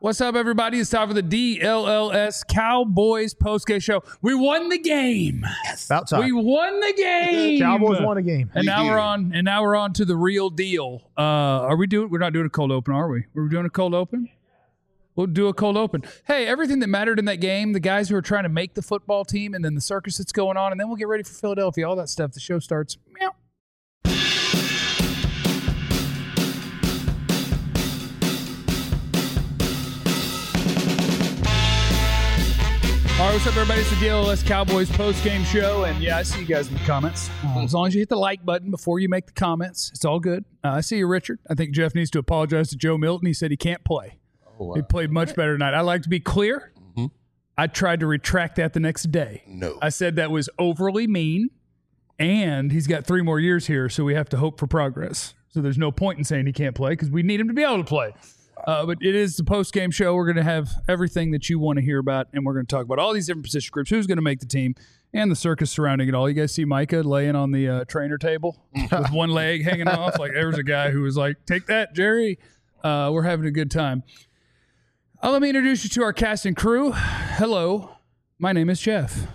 What's up, everybody? It's time for the DLLS Cowboys postgame show. We won the game. Yes. About time. We won the game. Cowboys won a game. And now we're on. And now we're on to the real deal. Are we doing? We're not doing a cold open, are we? We're doing a cold open. We'll do a cold open. Hey, everything that mattered in that game, the guys who are trying to make the football team, and then the circus that's going on, and then we'll get ready for Philadelphia. All that stuff. The show starts. Meow. All right, what's up, everybody? It's the DLLS Cowboys post-game show, and yeah, I see you guys in the comments. As long as you hit the like button before you make the comments, it's all good. I see you, Richard. I think Jeff needs to apologize to Joe Milton. He said he can't play. Oh, wow. He played much better tonight. I like to be clear. Mm-hmm. I tried to retract that the next day. No. I said that was overly mean, and he's got 3 more years here, so we have to hope for progress. So there's no point in saying he can't play because we need him to be able to play. But it is the post-game show. We're going to have everything that you want to hear about, and we're going to talk about all these different position groups, who's going to make the team, and the circus surrounding it all. You guys see Micah laying on the trainer table with one leg hanging off? Like, there was a guy who was like, take that, Jerry. We're having a good time. Let me introduce you to our cast and crew. Hello, my name is Jeff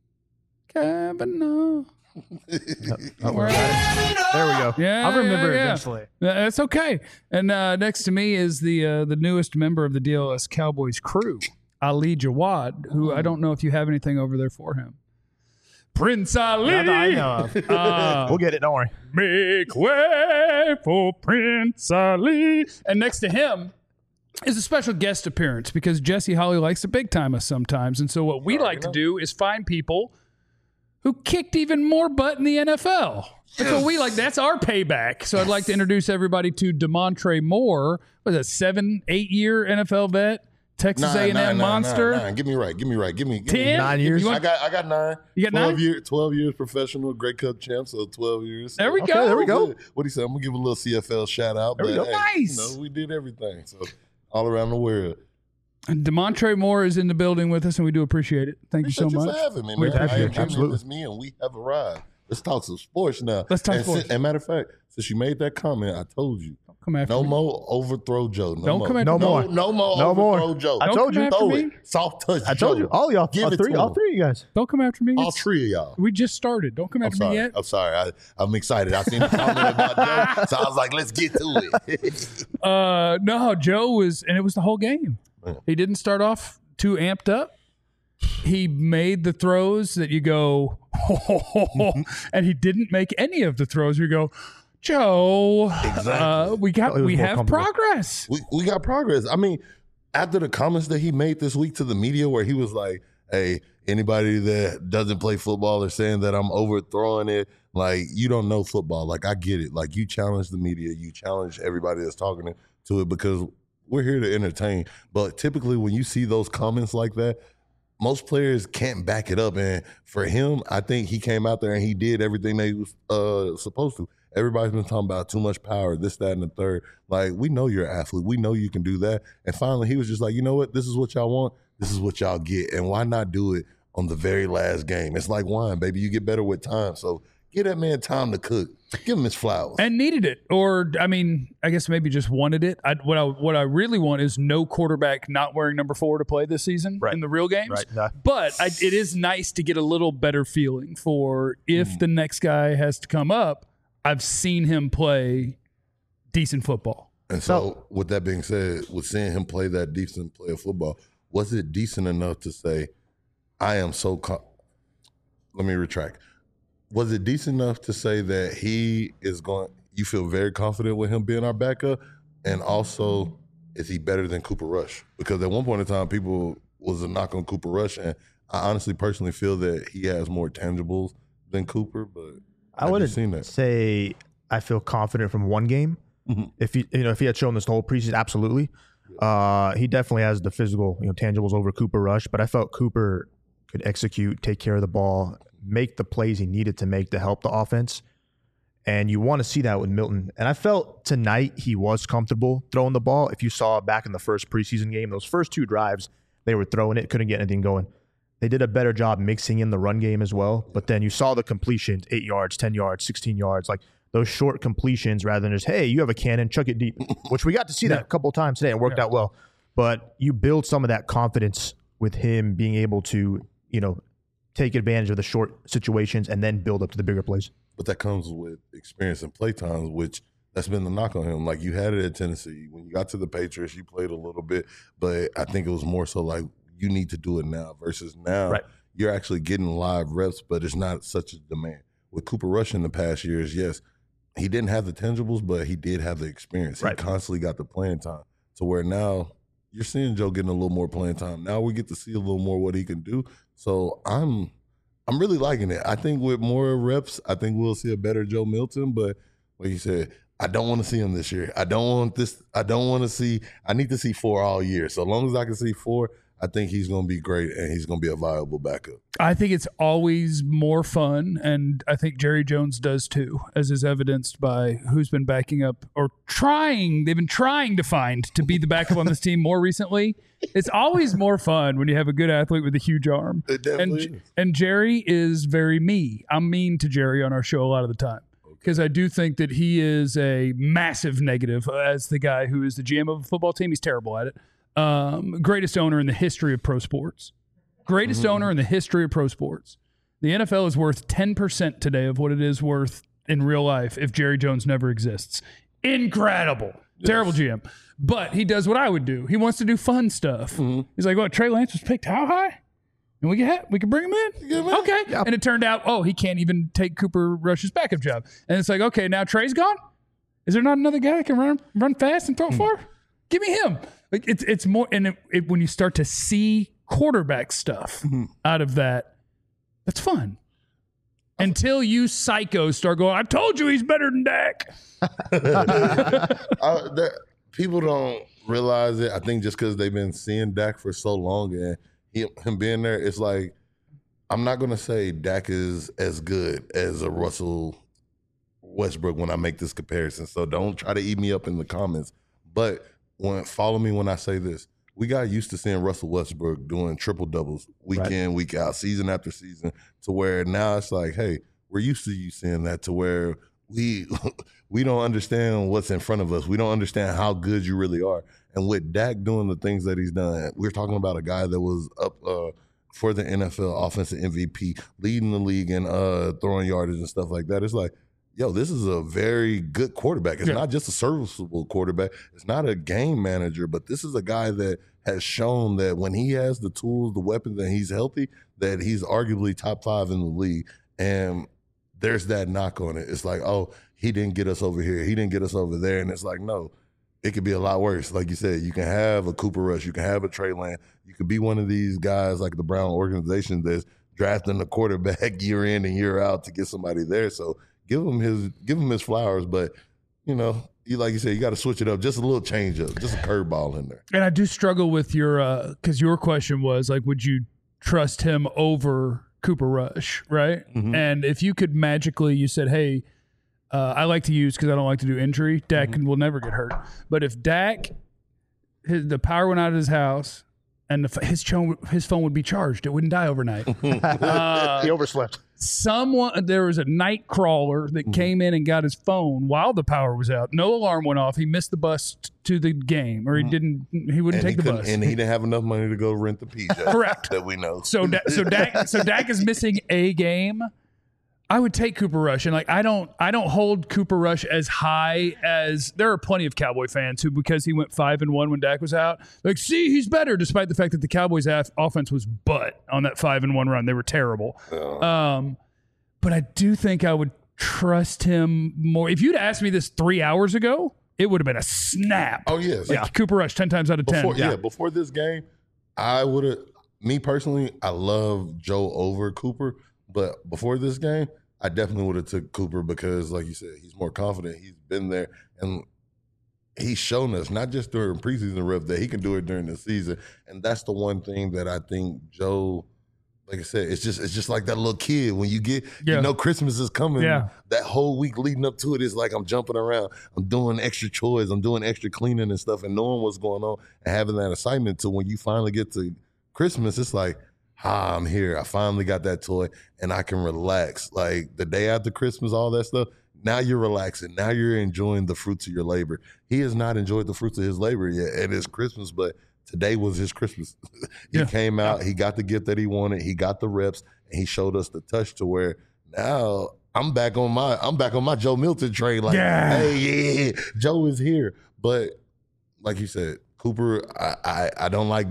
Kavanaugh. There we go. Yeah, I'll remember it eventually. That's okay. And next to me is the newest member of the DLS Cowboys crew, Ali Jawad, who I don't know if you have anything over there for him. Prince Ali. Not that I know of. We'll get it. Don't worry. Make way for Prince Ali. And next to him is a special guest appearance because Jesse Holly likes to big time us sometimes. And so what we like to do is find people who kicked even more butt in the NFL. That's what we like. That's our payback. So I'd like to introduce everybody to DeMontre Moore. Was a 7-8 year NFL vet, Texas A&M monster. 9. Give me right. Give me 10? 9 years. I got 9. You got 9? 12 years professional Grey Cup champ, so 12 years. There we go. Okay, there we go. What he said, I'm going to give a little CFL shout out. There we go. Nice. We did everything. So all around the world. And DeMontre Moore is in the building with us, and we do appreciate it. Thank you so much. For having me, We man. appreciate it. Absolutely. It's me, and we have arrived. Let's talk some sports now. Let's talk sports. And matter of fact, since you made that comment, I told you. Don't come after No me. more overthrow Joe. Don't come after No me. more. No more No more. overthrow Joe. I told you. Throw me. it. Soft touch I told Joe. you. All y'all. Give it to All him. three of you guys. Don't come after me. All 3 of y'all. We just started. Don't come I'm after me sorry. yet. I'm sorry. I'm excited. I seen the comment about Joe, so I was like, let's get to it. No, Joe was, and it was the whole game. Yeah. He didn't start off too amped up. He made the throws that you go, and he didn't make any of the throws where you go, Joe. Exactly. We have progress. We got progress. I mean, after the comments that he made this week to the media where he was like, hey, anybody that doesn't play football or saying that I'm overthrowing it, like, you don't know football. Like, I get it. Like, you challenge the media. You challenge everybody that's talking to it because we're here to entertain. But typically when you see those comments like that, most players can't back it up. And for him, I think he came out there and he did everything they was supposed to. Everybody's been talking about too much power, this, that, and the third. Like, we know you're an athlete. We know you can do that. And finally, he was just like, you know what? This is what y'all want. This is what y'all get. And why not do it on the very last game? It's like wine, baby. You get better with time. So give that man time to cook. Give him his flowers. And needed it. Or, I mean, I guess maybe just wanted it. What I really want is no quarterback not wearing number 4 to play this season in the real games. Right. No. But it is nice to get a little better feeling for if the next guy has to come up, I've seen him play decent football. And so, with that being said, with seeing him play that decent play of football, was it decent enough to say, I am so let me retract. Was it decent enough to say that he is going, you feel very confident with him being our backup? And also, is he better than Cooper Rush? Because at one point in time, people was a knock on Cooper Rush. And I honestly, personally feel that he has more tangibles than Cooper, but I wouldn't say I feel confident from one game. Mm-hmm. If he had shown this the whole preseason, absolutely. He definitely has the physical, tangibles over Cooper Rush. But I felt Cooper could execute, take care of the ball, make the plays he needed to make to help the offense. And you want to see that with Milton. And I felt tonight he was comfortable throwing the ball. If you saw back in the first preseason game, those first 2 drives, they were throwing it, couldn't get anything going. They did a better job mixing in the run game as well. But then you saw the completions, 8 yards, 10 yards, 16 yards, like those short completions rather than just, hey, you have a cannon, chuck it deep, which we got to see that a couple of times today and worked out well. but you build some of that confidence with him being able to, take advantage of the short situations and then build up to the bigger plays. But that comes with experience and play times, which that's been the knock on him. Like, you had it at Tennessee. When you got to the Patriots, you played a little bit, but I think it was more so like, you need to do it now versus now. Right. You're actually getting live reps, but it's not such a demand. With Cooper Rush in the past years, yes, he didn't have the tangibles, but he did have the experience. Right. He constantly got the playing time. To where now you're seeing Joe getting a little more playing time. Now we get to see a little more what he can do. So I'm really liking it. I think with more reps, I think we'll see a better Joe Milton. But like you said, I don't want to see him this year. I need to see 4 all year. So long as I can see 4, I think he's going to be great and he's going to be a viable backup. I think it's always more fun, and I think Jerry Jones does too, as is evidenced by who's been backing up or trying. They've been trying to find to be the backup on this team more recently. It's always more fun when you have a good athlete with a huge arm. It definitely is. And Jerry is very me. I'm mean to Jerry on our show a lot of the time because I do think that he is a massive negative as the guy who is the GM of a football team. He's terrible at it. Greatest owner in the history of pro sports. Greatest owner in the history of pro sports. The NFL is worth 10% today of what it is worth in real life if Jerry Jones never exists. Incredible. Yes. Terrible GM. But he does what I would do. He wants to do fun stuff. He's like, what, Trey Lance was picked how high? And we can bring him in? Okay. Yep. And it turned out, he can't even take Cooper Rush's backup job. And it's like, okay, now Trey's gone? Is there not another guy that can run fast and throw it far? Give me him. Like it's more, and when you start to see quarterback stuff out of that, that's fun. Until you psychos start going, I told you he's better than Dak. People don't realize it. I think just because they've been seeing Dak for so long and him being there, it's like, I'm not going to say Dak is as good as a Russell Westbrook when I make this comparison. So don't try to eat me up in the comments. But follow me when I say this. We got used to seeing Russell Westbrook doing triple doubles week in, week out, season after season, to where now it's like, hey, we're used to you seeing that, to where we don't understand what's in front of us. We don't understand how good you really are. And with Dak doing the things that he's done, we're talking about a guy that was up for the NFL offensive MVP, leading the league and throwing yardage and stuff like that. It's like, yo, this is a very good quarterback. It's not just a serviceable quarterback. It's not a game manager, but this is a guy that has shown that when he has the tools, the weapons, and he's healthy, that he's arguably top 5 in the league. And there's that knock on it. It's like, he didn't get us over here. He didn't get us over there. And it's like, no, it could be a lot worse. Like you said, you can have a Cooper Rush. You can have a Trey Lance. You could be one of these guys like the Brown organization that's drafting a quarterback year in and year out to get somebody there. So give him his flowers, but like you said, you got to switch it up, just a little change up, just a curveball in there. And I do struggle with your because your question was like, would you trust him over Cooper Rush, right? Mm-hmm. And if you could magically, you said, hey, I like to use because I don't like to do injury. Dak will never get hurt, but if Dak, the power went out of his house and his phone would be charged, it wouldn't die overnight. He overslept. There was a night crawler that came in and got his phone while the power was out. No alarm went off. He missed the bus to the game, or he wouldn't take the bus. And he didn't have enough money to go rent the PJ. Correct. That we know. So Dak is missing a game. I would take Cooper Rush, and I don't hold Cooper Rush as high as there are plenty of Cowboy fans who, because he went 5-1 when Dak was out, like, see, he's better, despite the fact that the Cowboys' offense was butt on that 5-1 run. They were terrible. But I do think I would trust him more. If you'd asked me this 3 hours ago, it would have been a snap. Oh yes, Cooper Rush 10 times out of 10. Before this game, I would have. Me personally, I love Joe over Cooper. But before this game, I definitely would have took Cooper because, like you said, he's more confident. He's been there, and he's shown us, not just during preseason reps, that he can do it during the season. And that's the one thing that I think Joe, like I said, it's just like that little kid when you get, Christmas is coming. Yeah. That whole week leading up to it is like I'm jumping around. I'm doing extra chores. I'm doing extra cleaning and stuff and knowing what's going on and having that excitement to when you finally get to Christmas, it's like, I'm here. I finally got that toy and I can relax. Like the day after Christmas, all that stuff, now you're relaxing. Now you're enjoying the fruits of your labor. He has not enjoyed the fruits of his labor yet. And it's Christmas, but today was his Christmas. He came out, he got the gift that he wanted, he got the reps, and he showed us the touch to where now I'm back on my Joe Milton train. Like, hey, Joe is here. But like you said, Cooper, I don't like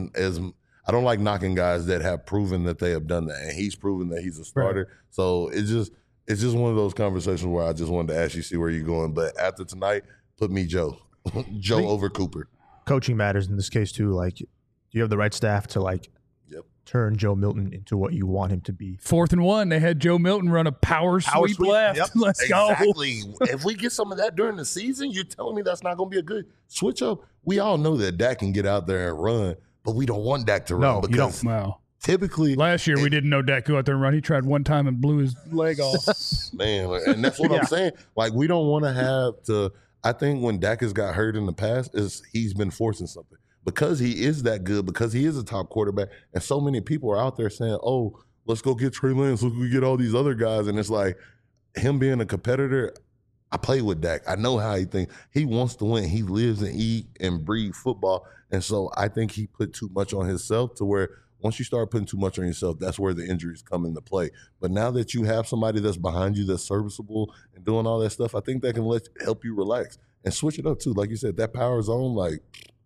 I don't like knocking guys that have proven that they have done that, and he's proven that he's a starter. Right. So it's just one of those conversations where I just wanted to ask you, see where you're going. But after tonight, put me Joe over Cooper. Coaching matters in this case too. Like, you have the right staff to turn Joe Milton into what you want him to be. 4th and 1, they had Joe Milton run a power sweep left. Yep. Let's go. Exactly. If we get some of that during the season, you're telling me that's not going to be a good switch up? We all know that Dak can get out there and run, but we don't want Dak to run. No, you don't. Wow. Typically, last year we didn't know Dak could go out there and run. He tried one time and blew his leg off. Man, and that's what I'm saying. Like, we don't want to have to. I think when Dak has got hurt in the past, is he's been forcing something. Because he is that good, because he is a top quarterback, and so many people are out there saying, oh, let's go get Trey Lance, let's go get all these other guys. And it's like, him being a competitor, I play with Dak. I know how he thinks. He wants to win. He lives and eat and breathe football. And so I think he put too much on himself to where once you start putting too much on yourself, that's where the injuries come into play. But now that you have somebody that's behind you that's serviceable and doing all that stuff, I think that can help you relax and switch it up too. Like you said, that power zone, like,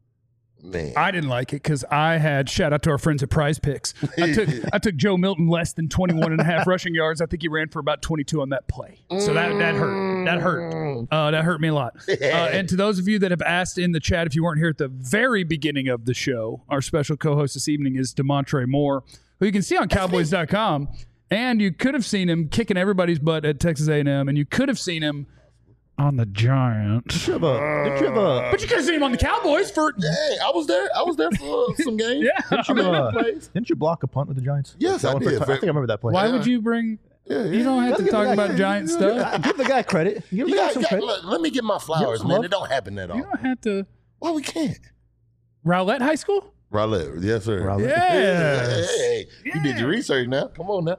man. I didn't like it because I had, shout out to our friends at Prize Picks. I took Joe Milton less than 21 and a half rushing yards. I think he ran for about 22 on that play. So that hurt. That hurt. That hurt me a lot. And to those of you that have asked in the chat, if you weren't here at the very beginning of the show, our special co-host this evening is DeMontre Moore, who you can see on Cowboys.com. And you could have seen him kicking everybody's butt at Texas A&M, and you could have seen him on the Giants. But you could have seen him on the Cowboys for. Hey, I was there for some games. Didn't you block a punt with the Giants? Yes, I did. I think I remember that play. Why would you bring? You don't have to talk about Giant stuff. Give the guy credit. Give the guy some credit. Let me get my flowers, man. It don't happen that often. You don't have to. Why we can't? Rowlett High School? Rowlett, yes, sir. Rowlett. Hey, you did your research now. Come on now.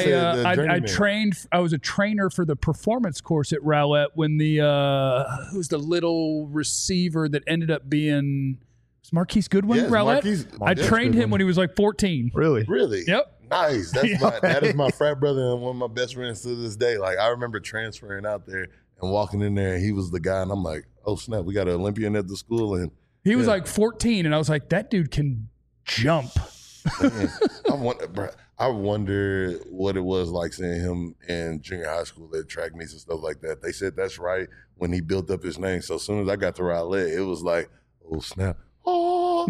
I trained. I was a trainer for the performance course at Rowlett when who's the little receiver that ended up being Marquise Goodwin. Yes, Rowlett. I trained him when he was like 14. Really? Yep. Nice. That is my frat brother and one of my best friends to this day. Like, I remember transferring out there and walking in there, and he was the guy, and I'm like, oh snap, we got an Olympian at the school, and he was like 14, and I was like, that dude can jump. Man, I wonder what it was like seeing him in junior high school at track meets and stuff like that. They said that's right when he built up his name. So as soon as I got to Rowlett, it was like, oh snap. Oh,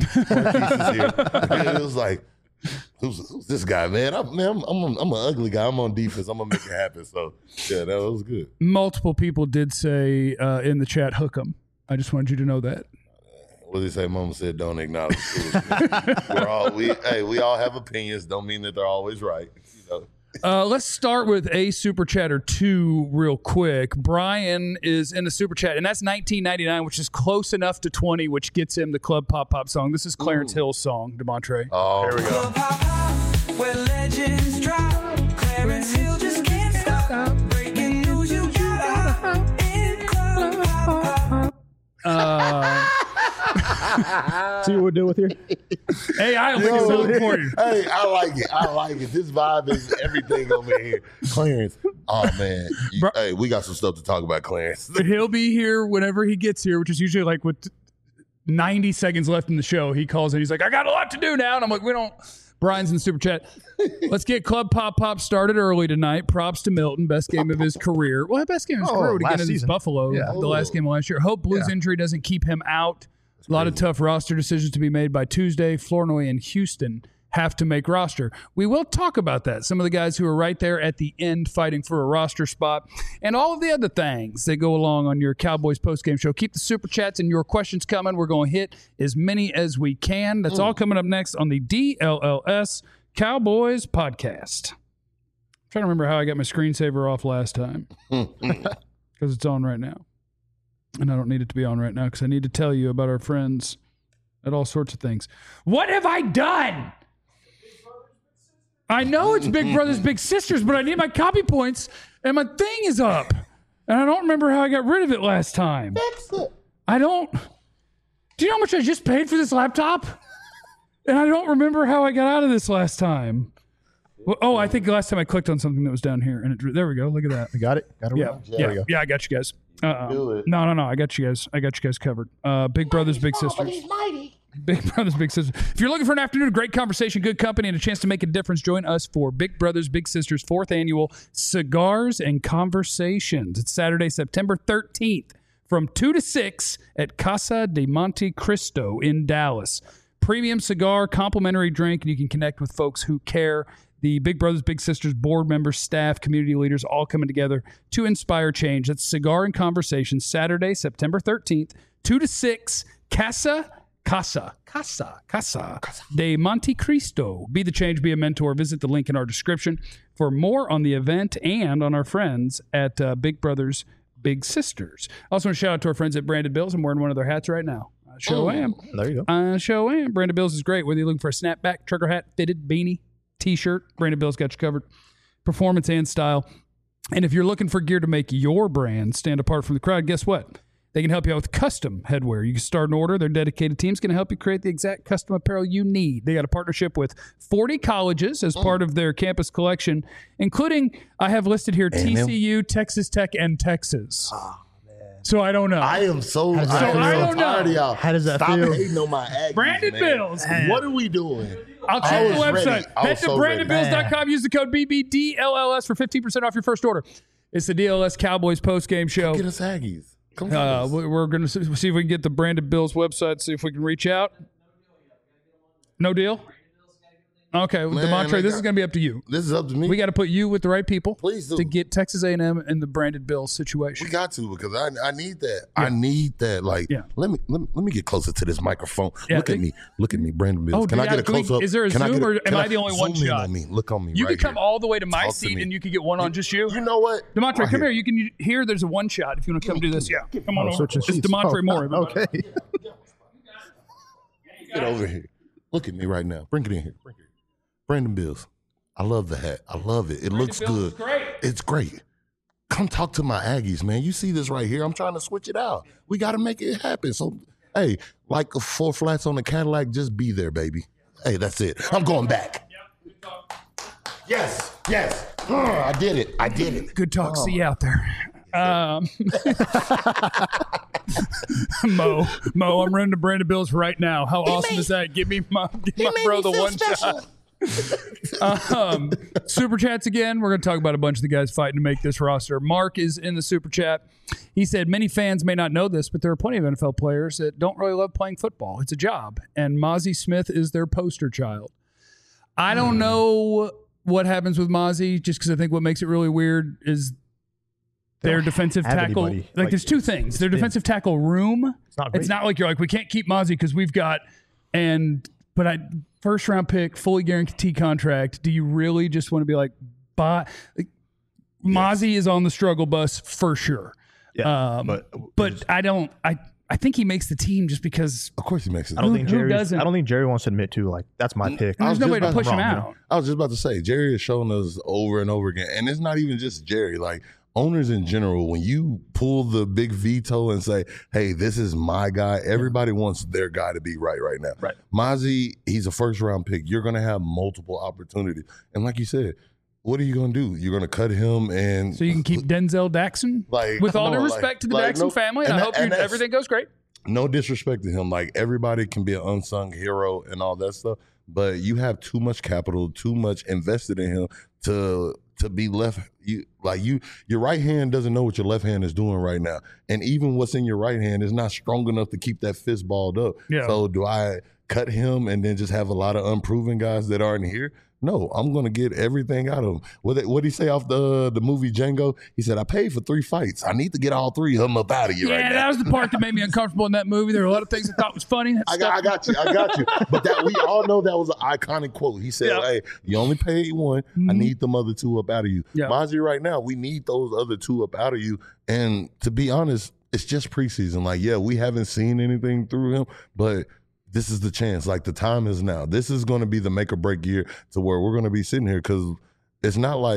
it was like, who's this guy, man? I'm an ugly guy. I'm on defense. I'm gonna make it happen. So yeah, that was good. Multiple people did say in the chat, hook 'em. I just wanted you to know that. What did he say? Mama said, don't acknowledge we all have opinions. Don't mean that they're always right. You know? Let's start with a super chat or two real quick. Brian is in the super chat, and that's $19.99, which is close enough to 20, which gets him the Club Pop Pop song. This is Clarence Hill's song, DeMontre. Oh, here we go. Club Pop Pop, where legends drop. Clarence Hill just can't stop. Breaking news, you gotta in Club Pop Pop. See what we're doing with here? Hey, I don't think it's so important. Hey, I like it. This vibe is everything over here. Clarence. Oh, man. Hey, we got some stuff to talk about, Clarence. He'll be here whenever he gets here, which is usually like with 90 seconds left in the show. He calls in. He's like, I got a lot to do now. And I'm like, we don't. Brian's in the super chat. Let's get Club Pop Pop started early tonight. Props to Milton. Best game of his career. Well, best game of his career would have been against Buffalo, the last game of last year. Hope Blues injury doesn't keep him out. A lot of tough roster decisions to be made by Tuesday. Flournoy and Houston have to make roster. We will talk about that. Some of the guys who are right there at the end fighting for a roster spot and all of the other things that go along on your Cowboys postgame show. Keep the super chats and your questions coming. We're going to hit as many as we can. That's all coming up next on the DLLS Cowboys podcast. I'm trying to remember how I got my screensaver off last time because it's on right now. And I don't need it to be on right now because I need to tell you about our friends at all sorts of things. What have I done? I know it's Big Brothers Big Sisters, but I need my copy points, and my thing is up. And I don't remember how I got rid of it last time. I don't. Do you know how much I just paid for this laptop? And I don't remember how I got out of this last time. Well, oh, I think the last time I clicked on something that was down here, and there we go. Look at that. You got it? Got it? Yeah, right? yeah, There we go. yeah. I got you guys. Do it. No. I got you guys. I got you guys covered. Big Brothers, Big Sisters. Big Brothers, Big Sisters. If you're looking for an afternoon of great conversation, good company, and a chance to make a difference, join us for Big Brothers, Big Sisters 4th Annual Cigars and Conversations. It's Saturday, September 13th from 2 to 6 at Casa de Monte Cristo in Dallas. Premium cigar, complimentary drink, and you can connect with folks who care. The Big Brothers, Big Sisters board members, staff, community leaders all coming together to inspire change. That's Cigar and Conversations, Saturday, September 13th, 2 to 6, Casa de Monte Cristo. Be the change, be a mentor. Visit the link in our description for more on the event and on our friends at Big Brothers, Big Sisters. Also, want to shout out to our friends at Branded Bills. I'm wearing one of their hats right now. I sure am. There you go. I sure am. Branded Bills is great. Whether you're looking for a snapback, trucker hat, fitted, beanie, T-shirt, Branded Bills got you covered. Performance and style. And if you're looking for gear to make your brand stand apart from the crowd, guess what? They can help you out with custom headwear. You can start an order. Their dedicated team's going to help you create the exact custom apparel you need. They got a partnership with 40 colleges as part of their campus collection, including, I have listed here, TCU, Texas Tech, and Texas. So I don't know. I am so I don't tired of know. y'all. How does that Stop feel? hating on my Aggies, Branded man. Bills. What are we doing? I'll check the was website. ready. I Head was to so ready. brandedbills.com. Use the code BBDLLS for 15% off your first order. It's the DLS Cowboys post-game show. Get us Aggies. Come on. We're going to see if we can get the Branded Bills website, see if we can reach out. No deal? Okay, DeMontre, this is going to be up to you. This is up to me. We got to put you with the right people Please do. to get Texas A&M in the Branded Bills situation. We got to because I need that. I need that. Like, Yeah. let me get closer to this microphone. Yeah. Look at me, Brandon Bills. Oh, can I get a can we- close up? is there a Can I Zoom get or am can I the only one zoom in shot? on me? Look on me. You right can come here. all the way to my Talk to seat me. and you can get one on just you. You know what? DeMontre, Right come here. You can here. There's a one shot if you want to come do this. Yeah, come on over. Switching It's seats. DeMontre Moore. everybody. Okay. Get over here. Look at me right now. Bring it in here. Bring it. Brandon Bills. I love the hat. I love it. It looks Bills is good. great. It's great. Come talk to my Aggies, man. You see this right here? I'm trying to switch it out. We got to make it happen. So, hey, like 4 flats on the Cadillac, just be there, baby. Hey, that's it. I'm going back. Yes. I did it. Good talk. See you out there. Mo, I'm running to Brandon Bills right now. How awesome is that? Give me my bro the one shot. Super chats again. We're going to talk about a bunch of the guys fighting to make this roster. Mark is in the super chat. He said many fans may not know this, but there are plenty of NFL players that don't really love playing football. It's a job, and Mozzie Smith is their poster child. I don't know what happens with Mozzie, just because I think what makes it really weird is their defensive have tackle. anybody. Like, there's two things. Their defensive tackle room. It's not like you're like, we can't keep Mozzie because we've got first round pick, fully guaranteed contract. Do you really just want to be like, Mozzie is on the struggle bus for sure. Yeah. But I think he makes the team just because Of course he makes it. I don't think who doesn't? I don't think Jerry wants to admit to, like, that's my pick. there's was no just way to about push him wrong, out. I was just about to say, Jerry has shown us over and over again, and it's not even just Jerry. Like, owners in general, when you pull the big veto and say, hey, this is my guy, everybody wants their guy to be right now. Right. Mozzie, he's a first-round pick. You're going to have multiple opportunities. And like you said, what are you going to do? You're going to cut him and So you can keep Denzel Daxon. Like, with all come due on, respect to the like, Daxon no- family, and I that- hope and that's- everything goes great. no disrespect to him. Like, everybody can be an unsung hero and all that stuff, but you have too much capital, too much invested in him to be left. Your right hand doesn't know what your left hand is doing right now, and even what's in your right hand is not strong enough to keep that fist balled up. Yeah. So do I cut him and then just have a lot of unproven guys that aren't here? No, I'm going to get everything out of him. What did he say off the movie Django? He said, I paid for 3 fights. I need to get all 3 of them up out of you right Yeah, now. that was the part that made me uncomfortable in that movie. There were a lot of things I thought was funny. I got you. But that we all know that was an iconic quote. He said, Yeah. hey, you only paid 1. I need them other 2 up out of you. Yeah. Mozzie, right now, we need those other 2 up out of you. And to be honest, it's just preseason. Like, yeah, we haven't seen anything through him, but this is the chance. Like, the time is now. This is going to be the make or break year to where we're going to be sitting here, because it's not like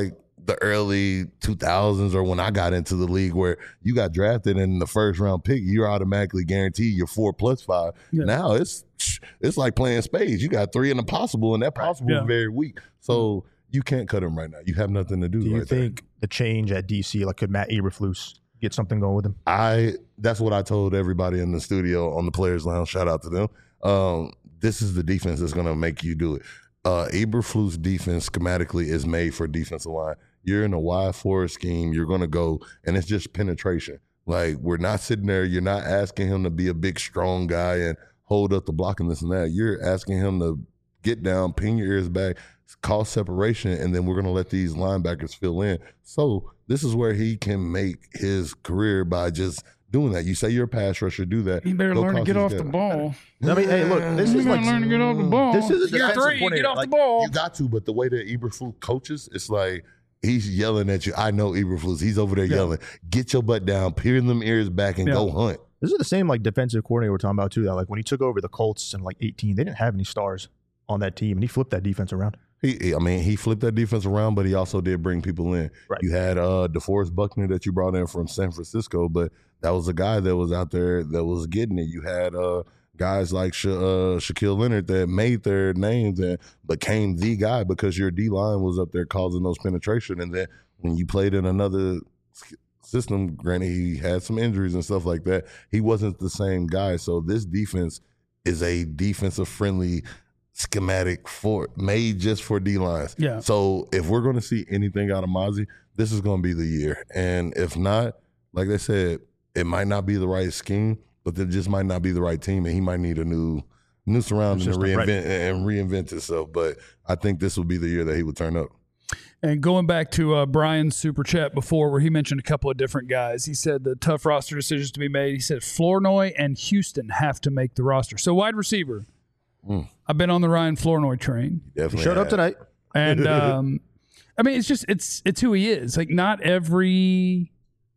the early 2000s or when I got into the league where you got drafted in the first round pick, you're automatically guaranteed your 4+5. Yeah. Now it's like playing spades. You got 3 in the possible, and that possible is very weak. So you can't cut him right now. You have nothing to do. Do you right think the change at DC, like could Matt Eberflus get something going with him? That's what I told everybody in the studio on the Players Lounge. Shout out to them. This is the defense that's going to make you do it. Eberflus' defense schematically is made for defensive line. You're in a wide forward scheme. You're going to go, and it's just penetration. Like, we're not sitting there. You're not asking him to be a big, strong guy and hold up the block and this and that. You're asking him to get down, pin your ears back, cause separation, and then we're going to let these linebackers fill in. So this is where he can make his career by just doing that. You say you're a pass rusher, do that. You better Go learn to cause get these off the guys. ball. I mean, hey, look, this You is gotta like learn to get off the ball. This is a You're defensive 3, coordinator. get off Like, the ball. You got to, but the way that Eberflus coaches, it's like he's yelling at you. I know Eberflus. He's over there yelling, get your butt down, peer them ears back, and go hunt. This is the same like defensive coordinator we're talking about too. That like when he took over the Colts in like 18, they didn't have any stars on that team, and he flipped that defense around. He flipped that defense around, but he also did bring people in. Right. You had DeForest Buckner that you brought in from San Francisco, but that was a guy that was out there that was getting it. You had guys like Shaquille Leonard that made their names and became the guy because your D-line was up there causing those penetration. And then when you played in another system, granted he had some injuries and stuff like that, he wasn't the same guy. So this defense is a defensive-friendly schematic made just for D-lines. Yeah. So if we're going to see anything out of Mozzie, this is going to be the year. And if not, like I said, it might not be the right scheme, but it just might not be the right team, and he might need a new surrounding System, and right. reinvent himself. But I think this will be the year that he would turn up. And going back to Brian's super chat before, where he mentioned a couple of different guys, he said the tough roster decisions to be made. He said Flournoy and Houston have to make the roster. So wide receiver, I've been on the Ryan Flournoy train, Definitely Showed up tonight. and I mean it's just it's who he is. Like not every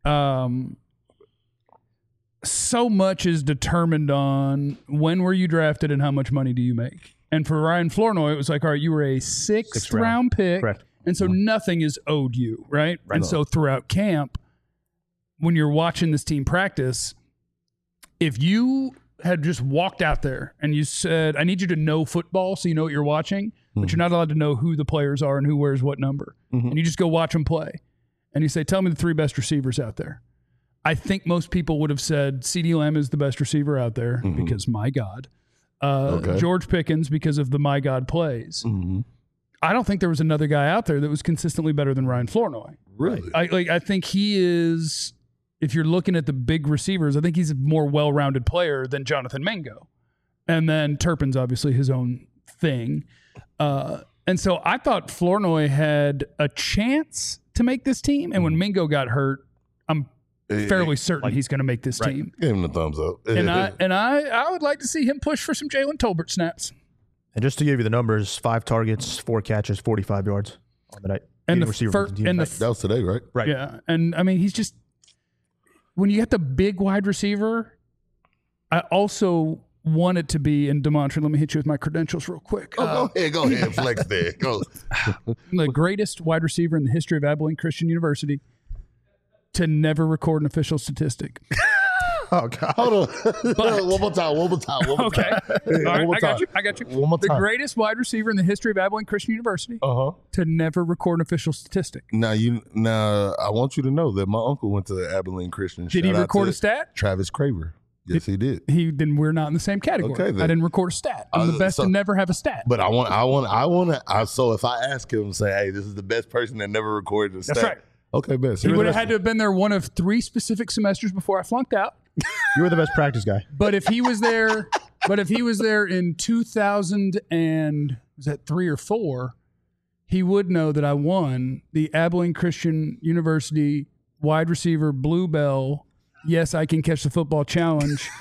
so much is determined on when were you drafted and how much money do you make. And for Ryan Flournoy, it was like, all right, you were a sixth round pick. Correct. And so nothing is owed you, right? And so throughout camp, when you're watching this team practice, if you had just walked out there and you said, I need you to know football so you know what you're watching, but you're not allowed to know who the players are and who wears what number. And you just go watch them play. And you say, tell me the 3 best receivers out there. I think most people would have said CeeDee Lamb is the best receiver out there because my God. George Pickens because of the my God plays. I don't think there was another guy out there that was consistently better than Ryan Flournoy. Really? I think he is, if you're looking at the big receivers, I think he's a more well-rounded player than Jonathan Mingo. And then Turpin's obviously his own thing. And so I thought Flournoy had a chance to make this team. And when Mingo got hurt, I'm fairly certain he's going to make this team. Give him the thumbs up. And I would like to see him push for some Jalen Tolbert snaps. And just to give you the numbers, 5 targets, 4 catches, 45 yards on the night. And Leading the receiver fir- for the team and the tonight. that was today, right? Right. Yeah. And I mean, he's just, when you get the big wide receiver, I also want it to be, and DeMontre, let me hit you with my credentials real quick. Go ahead, flex there. Go. The greatest wide receiver in the history of Abilene Christian University to never record an official statistic. Oh, God. Hold on. But- one more time. Okay. All right, I got you. One more The time. greatest wide receiver in the history of Abilene Christian University to never record an official statistic. Now I want you to know that my uncle went to Abilene Christian. Did he Shout out record to a stat? Travis Craver. Yes, he did. Then we're not in the same category. Okay, then. I didn't record a stat. I'm the best so- to never have a stat. But so if I ask him and say, hey, this is the best person that never recorded a stat. That's right. Okay, best. He would have had to have been there one of 3 specific semesters before I flunked out. You were the best practice guy. But if he was there, in 2000 and was that 3 or 4, he would know that I won the Abilene Christian University wide receiver Bluebell. Yes, I can catch the football challenge.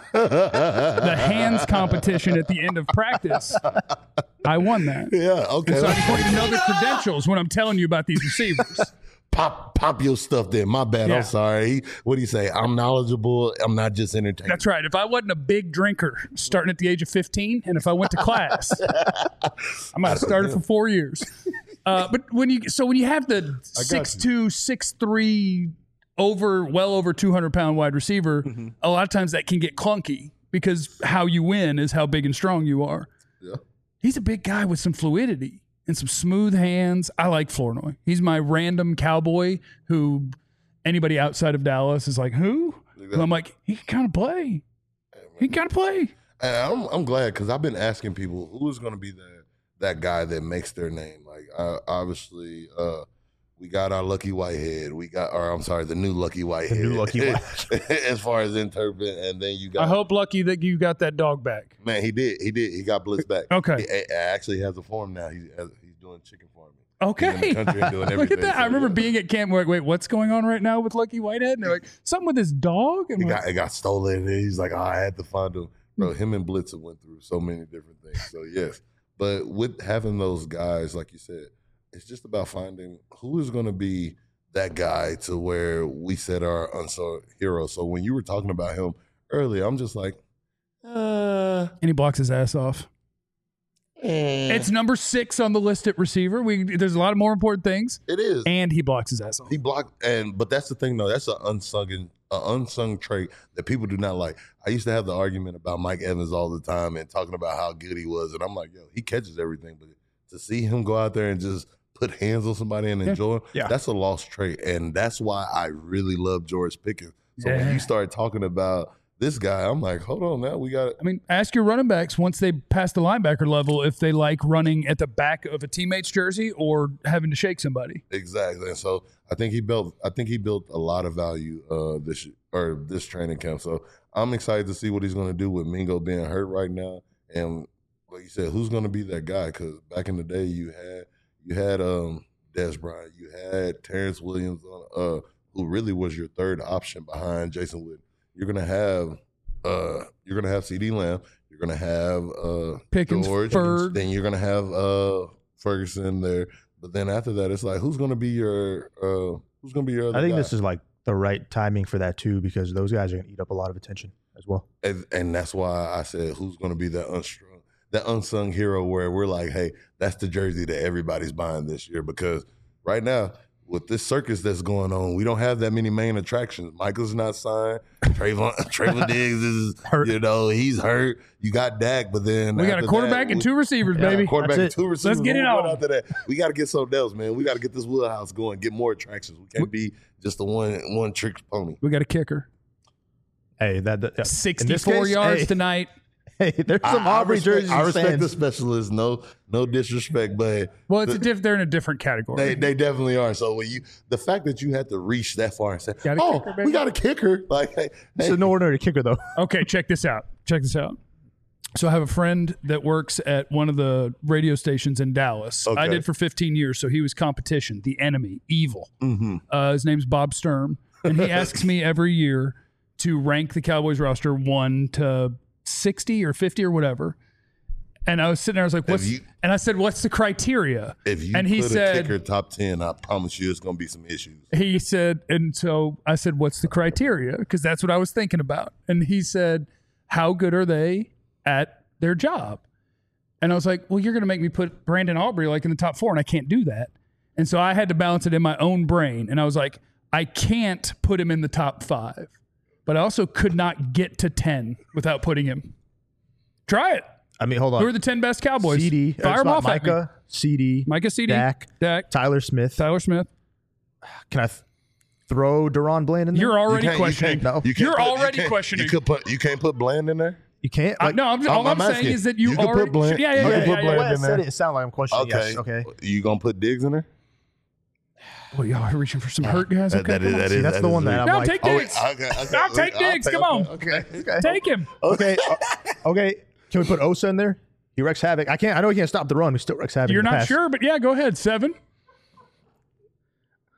The hands competition at the end of practice. I won that. Yeah, okay. So I just want you to know the credentials when I'm telling you about these receivers. Pop your stuff there. My bad. Yeah. I'm sorry. What do you say? I'm knowledgeable. I'm not just entertaining. That's right. If I wasn't a big drinker starting at the age of 15, and if I went to class, I might have started for 4 years. But when you have the 6'2", 6'3", well over 200-pound wide receiver, a lot of times that can get clunky because how you win is how big and strong you are. Yeah. He's a big guy with some fluidity and some smooth hands. I like Flournoy. He's my random cowboy who anybody outside of Dallas is like, who? And I'm like, he can kind of play. He can kind of play. And I'm glad because I've been asking people who is going to be that guy that makes their name. Like obviously, we got our Lucky Whitehead. The new Lucky Whitehead. The new Lucky Whitehead. As far as interpret, and then you got. I hope Lucky that you got that dog back. Man, he did. He got Blitz back. Okay. He actually has a farm now. He's doing chicken farming. Okay. He's in the country and doing Look at everything. that. I remember being at camp. Wait, what's going on right now with Lucky Whitehead? And they're like, something with his dog? And It got stolen. And he's like, I had to find him. Bro, him and Blitz went through so many different things. So, yes. But with having those guys, like you said, it's just about finding who is going to be that guy to where we set our unsung hero. So when you were talking about him earlier, I'm just like, and he blocks his ass off. It's number 6 on the list at receiver. There's a lot of more important things. It is. And he blocks his ass off. He blocked, but that's the thing, though. That's an unsung trait that people do not like. I used to have the argument about Mike Evans all the time and talking about how good he was, and I'm like, yo, he catches everything, but to see him go out there and just put hands on somebody and enjoy him, that's a lost trait, and that's why I really love George Pickens. So when you start talking about this guy, I'm like, hold on now, we got. I mean, ask your running backs once they pass the linebacker level if they like running at the back of a teammate's jersey or having to shake somebody. Exactly, and so I think he built a lot of value this training camp. So I'm excited to see what he's going to do with Mingo being hurt right now, and like you said, who's going to be that guy? Because back in the day, you had Des Bryant, you had Terrence Williams, who really was your third option behind Jason Witten. You're gonna have CeeDee Lamb. You're gonna have Pickens, George. Ferg. Then you're gonna have Ferguson there. But then after that, it's like who's gonna be your other I think guy? this is like the right timing for that too, because those guys are going to eat up a lot of attention as well. And that's why I said who's gonna be that unsung hero where we're like, hey, that's the jersey that everybody's buying this year, because right now, with this circus that's going on, we don't have that many main attractions. Michael's not signed. Trayvon Diggs is hurt. He's hurt. You got Dak, but then we got a quarterback and 2 receivers, baby. Quarterback and 2 receivers. Let's get it on. After that, we got to get something else, man. We got to get this wheelhouse going, get more attractions. We can't be just the one trick pony. We got a kicker. Hey, that 64 yards tonight. Hey, there's some Aubrey jerseys. I respect the specialists. No disrespect, but they're in a different category. They definitely are. So when the fact that you had to reach that far and say, kicker, we got a kicker, like, hey, it's an ordinary kicker though. Okay, check this out. So I have a friend that works at one of the radio stations in Dallas. Okay. I did for 15 years, so he was competition, the enemy, evil. Mm-hmm. His name's Bob Sturm, and he asks me every year to rank the Cowboys roster 1 to 60 or 50 or whatever. And I was sitting there, I was like, and I said, what's the criteria? If you he put said, a kicker top 10, I promise you it's going to be some issues. He said, and so I said, what's the criteria? Because that's what I was thinking about. And he said, how good are they at their job? And I was like, well, you're going to make me put Brandon Aubrey like in the top 4, and I can't do that. And so I had to balance it in my own brain. And I was like, I can't put him in the top 5. But I also could not get to 10 without putting him. Try it. I mean, hold on. Who are the 10 best Cowboys? CD. Fire them off at me. Micah, CD. Micah, CD. Dak. Tyler Smith. Tyler Smith. Can I throw Deron Bland in there? You're already questioning. No. You're already questioning. You can't put Bland in there? You can't? No, all I'm saying is that you can already. put Bland, yeah. you can put Bland in there. It sounded like I'm questioning. Okay. Yes. Okay. You going to put Diggs in there? Well, y'all are reaching for some hurt guys. Okay, That's the one that I'm no, like. take Diggs. No, take Diggs. Come on. Okay. Take him. Okay. Okay. Can we put Osa in there? He wrecks havoc. I know he can't stop the run. He still wrecks havoc. You're in the not pass. sure, but yeah, go ahead. 7.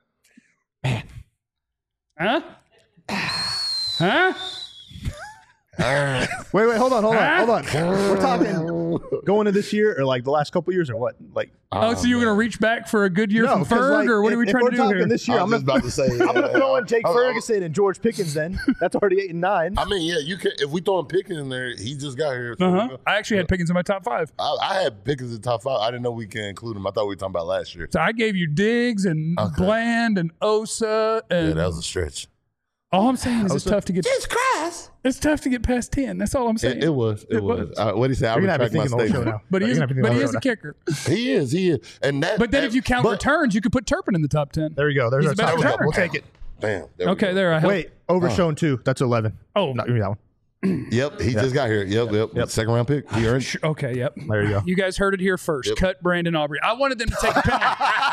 Man. Huh? Wait, hold on. We're talking going to this year or like the last couple years or what? Like, So you're going to reach back for a good year from 'cause, Ferg, like, or what are we if trying we're to do talking here? this year, I'm just about to say. I'm gonna throw in Jake Ferguson and George Pickens. Then that's already 8 and 9. I mean, yeah, you can. If we throwing Pickens in there, he just got here. So Uh-huh. I actually had Pickens in my top 5. I had Pickens in top 5. I didn't know we can include him. I thought we were talking about last year. So I gave you Diggs and Bland and Osa, and Yeah, that was a stretch. all I'm saying is it's tough to get. Jesus Christ! It's tough to get past 10. That's all I'm saying. It was. What did he say? I You're gonna have me retract my thinking the whole show statement. now. But he is, You're gonna have me thinking but he the is whole a show now. kicker. He is. And that. But then if you count returns, you could put Turpin in the top 10. There you go. There's He's our a better top. returner. We'll take it. Bam. Okay, there I helped. Wait, overshown 2. That's 11. Oh, Not give me that one. Yep, he just got here. Yep. Second round pick. He earned. okay, yep. There you go. You guys heard it here first. Cut Brandon Aubrey. I wanted them to take a penalty.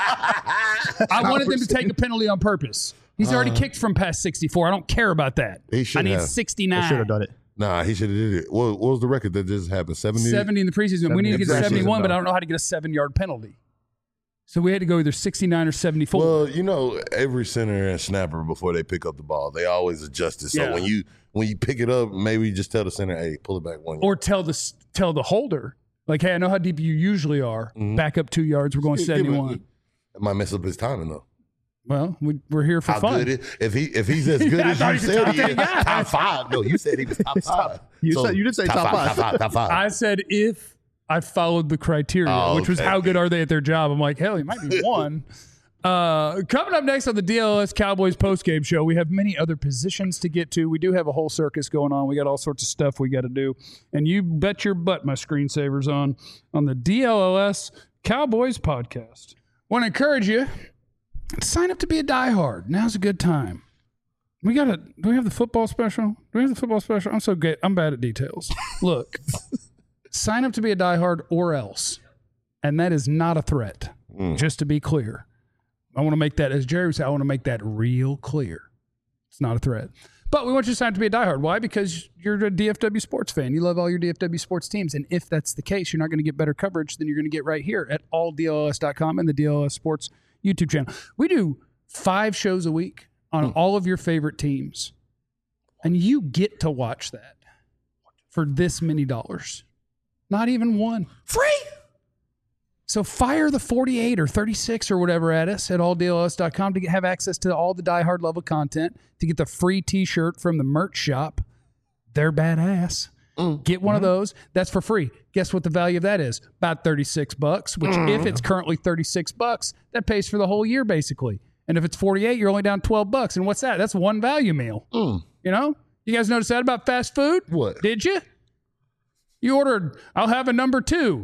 I wanted them to take a penalty on purpose. He's already kicked from past 64. I don't care about that. He should I need have. 69. Should have done it. Nah, he should have did it. What was the record that just happened? 70? 70 in the preseason. We need to get to Exactly. 71, but I don't know how to get a 7-yard penalty. So we had to go either 69 or 74. Well, you know, every center and snapper before they pick up the ball, they always adjust it. So Yeah. when you pick it up, maybe just tell the center, hey, pull it back 1 yard. Or tell the holder, like, hey, I know how deep you usually are. Back up 2 yards. We're going 71. It might mess up his timing though. Well, we're here for How fun. good if he's as good I as thought you he was said top he is, 10 guy. top 5. No, you said he was top 5. You did say top five. Top 5. I said if I followed the criteria, Oh, which was okay. how good are they at their job. I'm like, hell, he might be 1. Coming up next on the DLS Cowboys postgame show, we have many other positions to get to. We do have a whole circus going on. We got all sorts of stuff we got to do. And you bet your butt my screensaver's on the DLS Cowboys podcast. Want to encourage you to sign up to be a diehard. Now's a good time. Do we have the football special? Do we have the football special? I'm so good. I'm bad at details. Look, sign up to be a diehard or else. And that is not a threat, just to be clear. I want to make that, as Jerry would say, I want to make that real clear. It's not a threat. But we want you to sign up to be a diehard. Why? Because you're a DFW sports fan. You love all your DFW sports teams. And if that's the case, you're not going to get better coverage than you're going to get right here at alldls.com and the DLS Sports YouTube channel. We do 5 shows a week on all of your favorite teams. And you get to watch that for this many dollars. Not even one. Free! So fire the 48 or 36 or whatever at us at alldls.com to have access to all the Die Hard level content, to get the free t-shirt from the merch shop. They're badass. Get one of those. That's for free. Guess what the value of that is? About $36, which if it's currently $36, that pays for the whole year basically. And if it's 48, you're only down $12. And what's that? That's one value meal. You know? You guys notice that about fast food? What? Did you? You ordered, I'll have a number 2.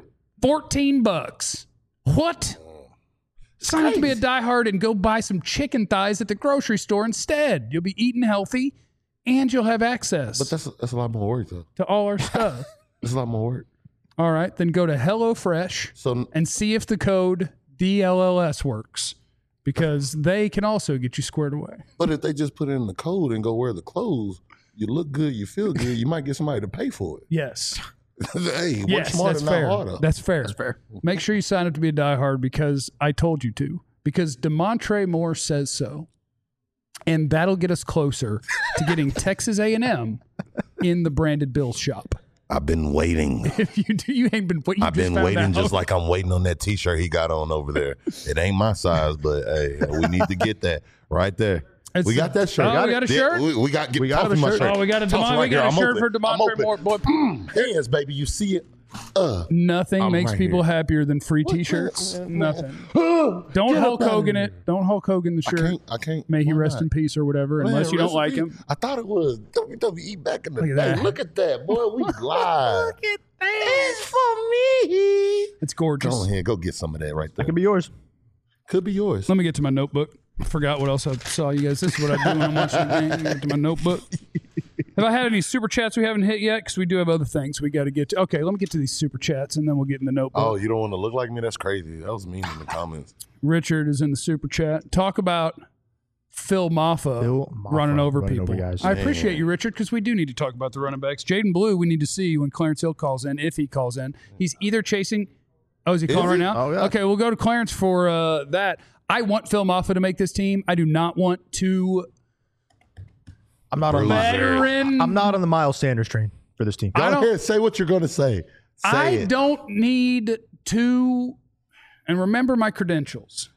$14. What? Sign up to be a diehard and go buy some chicken thighs at the grocery store instead. You'll be eating healthy and you'll have access But that's a lot more work though. to all our stuff. That's a lot more work. All right, then go to HelloFresh So and see if the code DLLS works, because they can also get you squared away. but if they just put in the code and go wear the clothes, you look good, you feel good, you might get somebody to pay for it. Yes. Hey, work Yes, smarter, that's not fair. harder. That's fair. Make sure you sign up to be a diehard because I told you to. Because DeMontre Moore says so, and that'll get us closer to getting Texas A&M in the branded Bills shop. I've been waiting. If you do, you ain't been. What you I've just been found waiting out. just like I'm waiting on that T-shirt he got on over there. It ain't my size, but hey, we need to get that right there. It's- We got that shirt. Oh, we got a shirt? We got We got toss a my shirt. Oh, we got a Toss it we got here. a I'm shirt open. for I'm DeMontre open. Moore. Boy, Hands, baby. You see it? nothing I'm makes right people here. happier than free T-shirts. Nothing. Don't Hulk Hogan it. Don't Hulk Hogan the shirt. I can't. May he Why rest not? in peace or whatever. Man, Unless you don't like recipe- him. I thought it was WWE back in the Look at day. that. Look at that, boy. We live. Look at that. It's for me. It's gorgeous. Go ahead. Go get some of that right there. Could be yours. Could be yours. Let me get to my notebook. I forgot what else I saw you guys. This is what I do when I'm watching the game. Let me get to my notebook. Have I had any super chats we haven't hit yet? Because we do have other things we got to get to. Okay, let me get to these super chats and then we'll get in the notebook. Oh, you don't want to look like me? That's crazy. That was mean in the comments. Richard is in the super chat. Talk about Phil Maffa, Phil Maffa running over running people. over guys. I appreciate you, Richard, because we do need to talk about the running backs. Jaden Blue, we need to see when Clarence Hill calls in, if he calls in. He's either chasing. Oh, is he calling right he? now? Oh, yeah. Okay, we'll go to Clarence for that. I want Phil Maffa to make this team. I do not want to I'm not on veteran. I'm not on the Miles Sanders train for this team. Go ahead, say what you're going to say. I don't need two, and remember my credentials.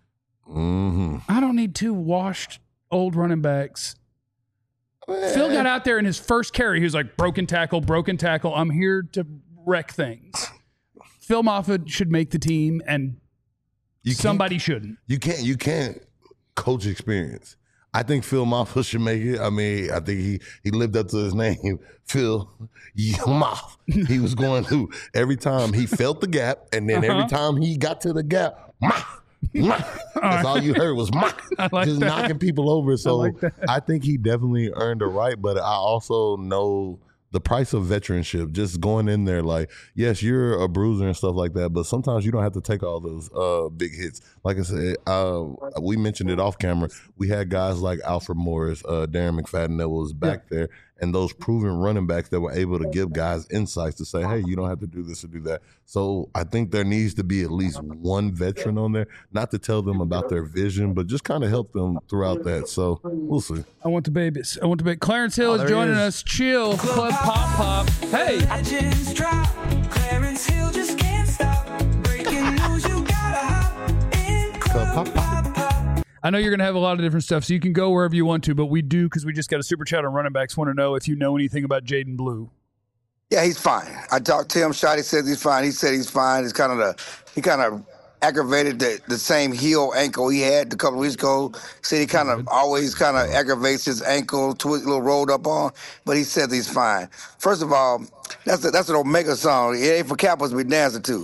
I don't need two washed old running backs. Phil got out there in his first carry. He was like, broken tackle. I'm here to wreck things. Phil Moffitt should make the team, and somebody shouldn't. You can't coach experience. I think Phil Moffitt should make it. I mean, I think he lived up to his name, Phil Moffitt. He was going to every time he felt the gap, and then every time he got to the gap, that's all you heard was just knocking people over. So I think he definitely earned a right, but I also know the price of veteranship, just going in there like, yes, you're a bruiser and stuff like that, but sometimes you don't have to take all those big hits. Like I said, we mentioned it off camera. We had guys like Alfred Morris, Darren McFadden that was back there, and those proven running backs that were able to give guys insights to say, hey, you don't have to do this or do that. So I think there needs to be at least one veteran on there, not to tell them about their vision, but just kind of help them throughout that. So we'll see. I want the babies. Clarence Hill is joining us. Chill. Club Pop. Hey. Legends drop. Clarence Hill just can't stop. Breaking news, you gotta hop in Club Pop. I know you're going to have a lot of different stuff, so you can go wherever you want to, but we do, because we just got a super chat on running backs, want to know if you know anything about Jaden Blue. Yeah, he's fine. I talked to him. Shotty says he's fine. He said he's fine. He kind of aggravated the same heel ankle he had a couple of weeks ago. Said he kind of always kind of aggravates his ankle, a little rolled up on, but he says he's fine. First of all, that's an Omega song. It ain't for Cowboys to be dancing to.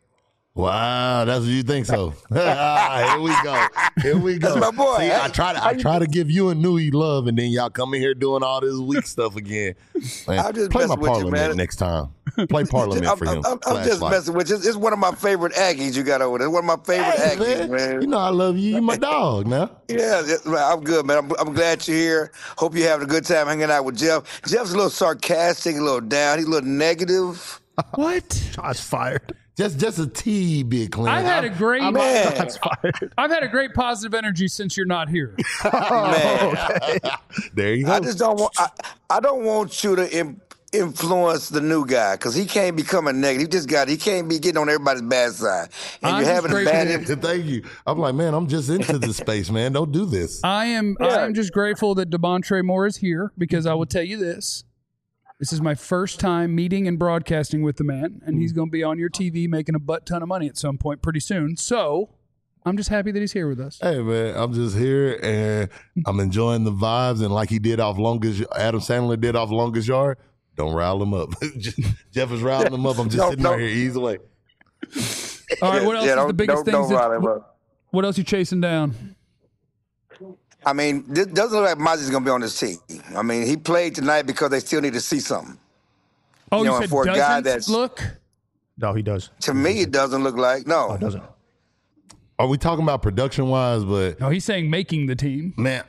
Wow, that's what you think so. Here we go. That's my boy. See, I try to give you and Nui love, and then y'all come in here doing all this weak stuff again. Man, I'm just play my messing with you, Parliament man. next time. Play Parliament for him. I'm just messing with you. It's one of my favorite Aggies you got over there. One of my favorite Aggies, man. You know I love you. You my dog now. Yeah, I'm good, man. I'm glad you're here. Hope you're having a good time hanging out with Jeff. Jeff's a little sarcastic, a little down. He's a little negative. What? Shots fired. Just a tea, big clean. I've had a great Shots fired. I've had a great positive energy since you're not here. Man, There you go. I just don't want. I don't want you to influence the new guy because he can't become a negative. He can't be getting on everybody's bad side. And you're having a bad. Thank you. I'm like, man, I'm just into this space, man. Don't do this. I am just grateful that Demontre Moore is here, because I will tell you this. This is my first time meeting and broadcasting with the man, and he's going to be on your TV making a butt ton of money at some point pretty soon. So I'm just happy that he's here with us. Hey, man, I'm just here, and I'm enjoying the vibes. And like he did off Adam Sandler did off Longest Yard, don't rile him up. Jeff is riling him up. I'm just sitting right here easy way. All right, what else is the biggest things? What else you chasing down? I mean, it doesn't look like Mozzie's going to be on this team. I mean, he played tonight because they still need to see something. Oh, You know, you said for a guy doesn't that's- look? No, he does. To me, it doesn't look like. No, No. it doesn't. Are we talking about production-wise? But, No, he's saying making the team. man,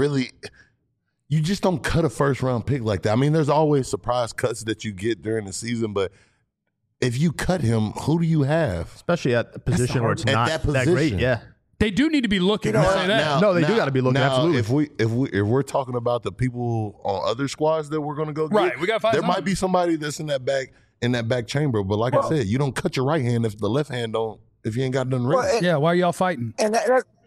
you just don't cut a first-round pick like that. I mean, there's always surprise cuts that you get during the season, but if you cut him, who do you have? Especially at a position where it's At not that that great. position. Yeah. They do need to be looking. You know I'll what? say that. No, they do gotta be looking, Now, absolutely. if we're talking about the people on other squads that we're going to go get, Right, we gotta find there someone. might be somebody that's in that back chamber. But like I said, you don't cut your right hand if the left hand don't. If you ain't got nothing ready. Well, Yeah, why are y'all fighting? And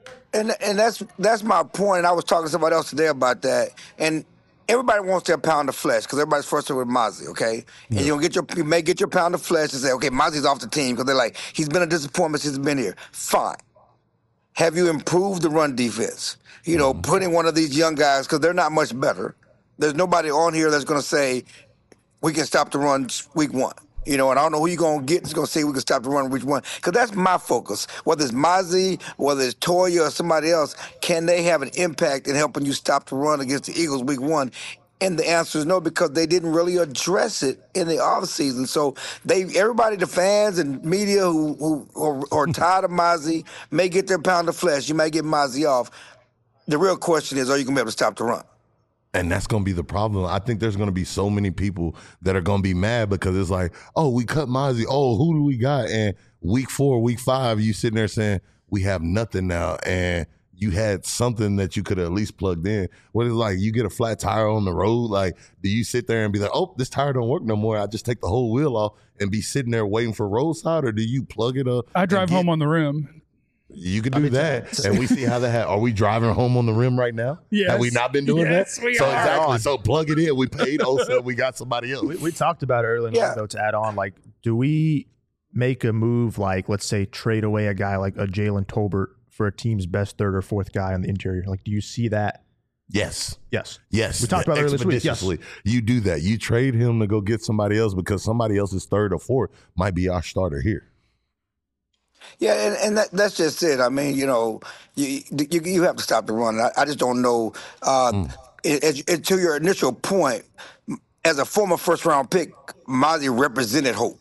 that's my point. I was talking to somebody else today about that. And everybody wants their pound of flesh because everybody's frustrated with Mozzie, okay? And you may get your pound of flesh and say, okay, Mozzie's off the team because they're like, he's been a disappointment since he's been here. Fine. Have you improved the run defense? You know, putting one of these young guys, because they're not much better. There's nobody on here that's going to say, we can stop the run week one. You know, and I don't know who you're going to get that's going to say we can stop the run week one. Because that's my focus. Whether it's Mozzie, whether it's Toya or somebody else, can they have an impact in helping you stop the run against the Eagles week one? And the answer is no, because they didn't really address it in the offseason. So everybody, the fans and media who are tired of Mozzie may get their pound of flesh. You may get Mozzie off. The real question is, are you going to be able to stop the run? And that's going to be the problem. I think there's going to be so many people that are going to be mad because it's like, oh, we cut Mozzie. Oh, who do we got? And week 4, week 5, you sitting there saying, we have nothing now. And you had something that you could have at least plugged in. What is like you get a flat tire on the road? Like, do you sit there and be like, oh, this tire don't work no more? I just take the whole wheel off and be sitting there waiting for roadside, or do you plug it up? I drive home on the rim. You could do that, and we see how that. Are we driving home on the rim right now? Yes. Have we not been doing Yes, that? we So are. exactly. So plug it in. We paid Osa. We got somebody else. We talked about it earlier, Yeah. though, to add on, like, do we make a move like, let's say, trade away a guy like a Jalen Tolbert for a team's best third or fourth guy on the interior? Like, do you see that? Yes. Yes. Yes. We talked about it earlier this week. Yes. Expeditiously. You do that. You trade him to go get somebody else because somebody else's third or fourth might be our starter here. Yeah, and that's just it. I mean, you have to stop the run. I just don't know. To your initial point, as a former first-round pick, Mozzie represented hope.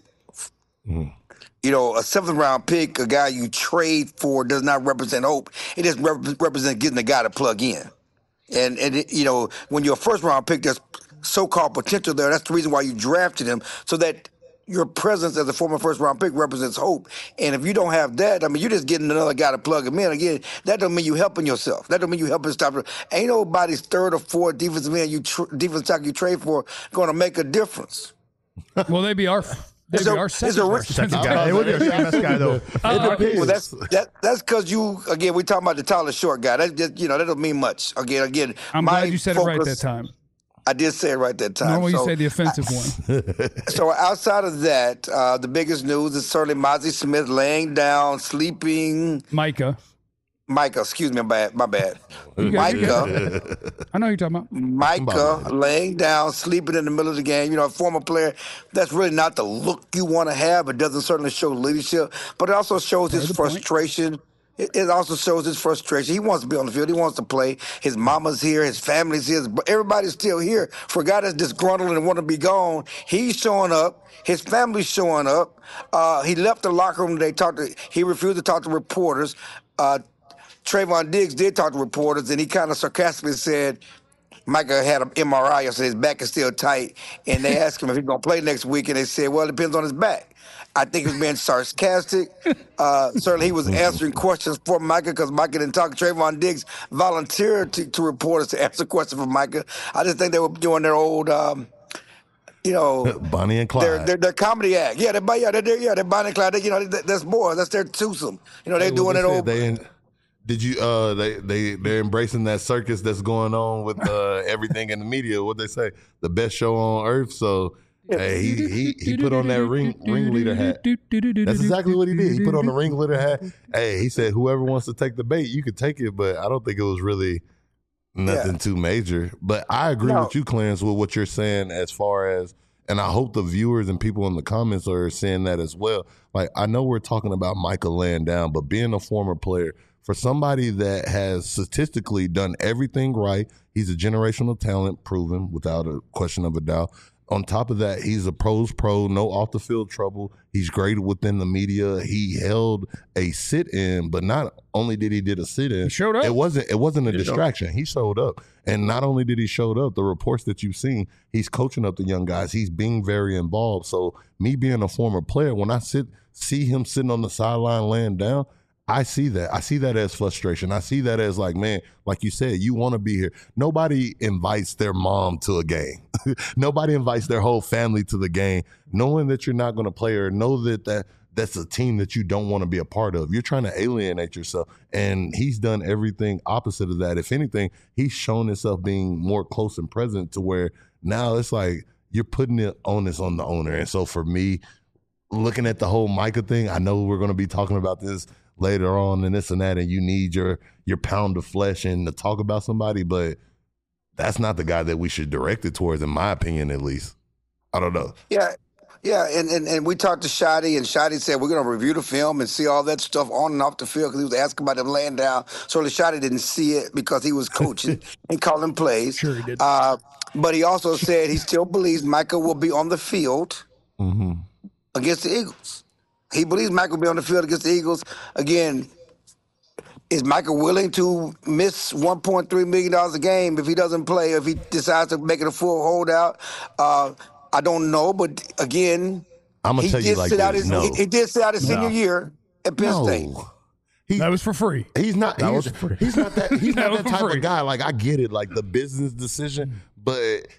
A seventh-round pick, a guy you trade for, does not represent hope. It just represents getting a guy to plug in. And when you're a first-round pick, there's so-called potential there. That's the reason why you drafted him, so that your presence as a former first-round pick represents hope. And if you don't have that, I mean, you're just getting another guy to plug him in. Again, that don't mean you helping yourself. That don't mean you helping stop. Ain't nobody's third or fourth defensive man, defensive tackle you trade for, going to make a difference. Well, they'd be our second worst. Second guy. It would be a second best guy, though. Well, that's because we talking about the taller short guy. That just, that don't mean much. Again. I'm glad you said it right that time. I did say it right that time. Normally you say the offensive one. So outside of that, the biggest news is certainly Mozzie Smith laying down, sleeping. Micah, Excuse me, my bad. You got it. Micah. I know who you're talking about. Micah laying down, sleeping in the middle of the game. A former player, that's really not the look you want to have. It doesn't certainly show leadership, but it also shows his frustration. It also shows his frustration. He wants to be on the field. He wants to play. His mama's here. His family's here. Everybody's still here. For a guy that's disgruntled and want to be gone, he's showing up. His family's showing up. He left the locker room. He refused to talk to reporters. Trayvon Diggs did talk to reporters, and he kind of sarcastically said, Micah had an MRI, so his back is still tight. And they asked him if he's going to play next week, and they said, well, it depends on his back. I think he was being sarcastic. Certainly he was answering questions for Micah because Micah didn't talk. Trayvon Diggs volunteered to reporters to answer questions for Micah. I just think they were doing their old, Bonnie and Clyde. Their comedy act. Yeah, they're Bonnie and Clyde. That's more. That's their twosome. They're doing it old. Did you? They're embracing that circus that's going on with everything in the media. What they say, the best show on earth. So. Hey, he put on that ringleader hat. That's exactly what he did. He put on the ringleader hat. Hey, he said, whoever wants to take the bait, you could take it, but I don't think it was really nothing too major. But I agree with you, Clarence, with what you're saying as far as, and I hope the viewers and people in the comments are saying that as well. Like, I know we're talking about Michael laying down, but being a former player, for somebody that has statistically done everything right, he's a generational talent, proven without a question of a doubt. On top of that, he's a pro's pro, no off the field trouble. He's great within the media. He held a sit-in, but not only did he did a sit-in, he showed up. It wasn't a distraction. He showed up, and not only did he show up, the reports that you've seen, he's coaching up the young guys. He's being very involved. So me being a former player, when I see him sitting on the sideline laying down, I see that. I see that as frustration. I see that as like, man, like you said, you want to be here. Nobody invites their mom to a game. Nobody invites their whole family to the game, knowing that you're not going to play or know that's a team that you don't want to be a part of. You're trying to alienate yourself. And he's done everything opposite of that. If anything, he's shown himself being more close and present to where now it's like you're putting the onus on the owner. And so for me, looking at the whole Micah thing, I know we're going to be talking about this later on and this and that, and you need your pound of flesh and to talk about somebody, but that's not the guy that we should direct it towards, in my opinion, at least. I don't know. Yeah, and we talked to Shadi, and Shadi said we're going to review the film and see all that stuff on and off the field because he was asking about them laying down. So Shadi didn't see it because he was coaching and calling plays. Sure he did. But he also said he still believes Micah will be on the field against the Eagles. He believes Micah will be on the field against the Eagles. Again, is Micah willing to miss $1.3 million a game if he doesn't play, if he decides to make it a full holdout? I don't know, but again, I'm gonna tell you like this. He did sit out his senior year at Penn State. That was for free. He's not. That He's, was free. he's not that. He's That not was that for type free. of guy. Like I get it, like the business decision, but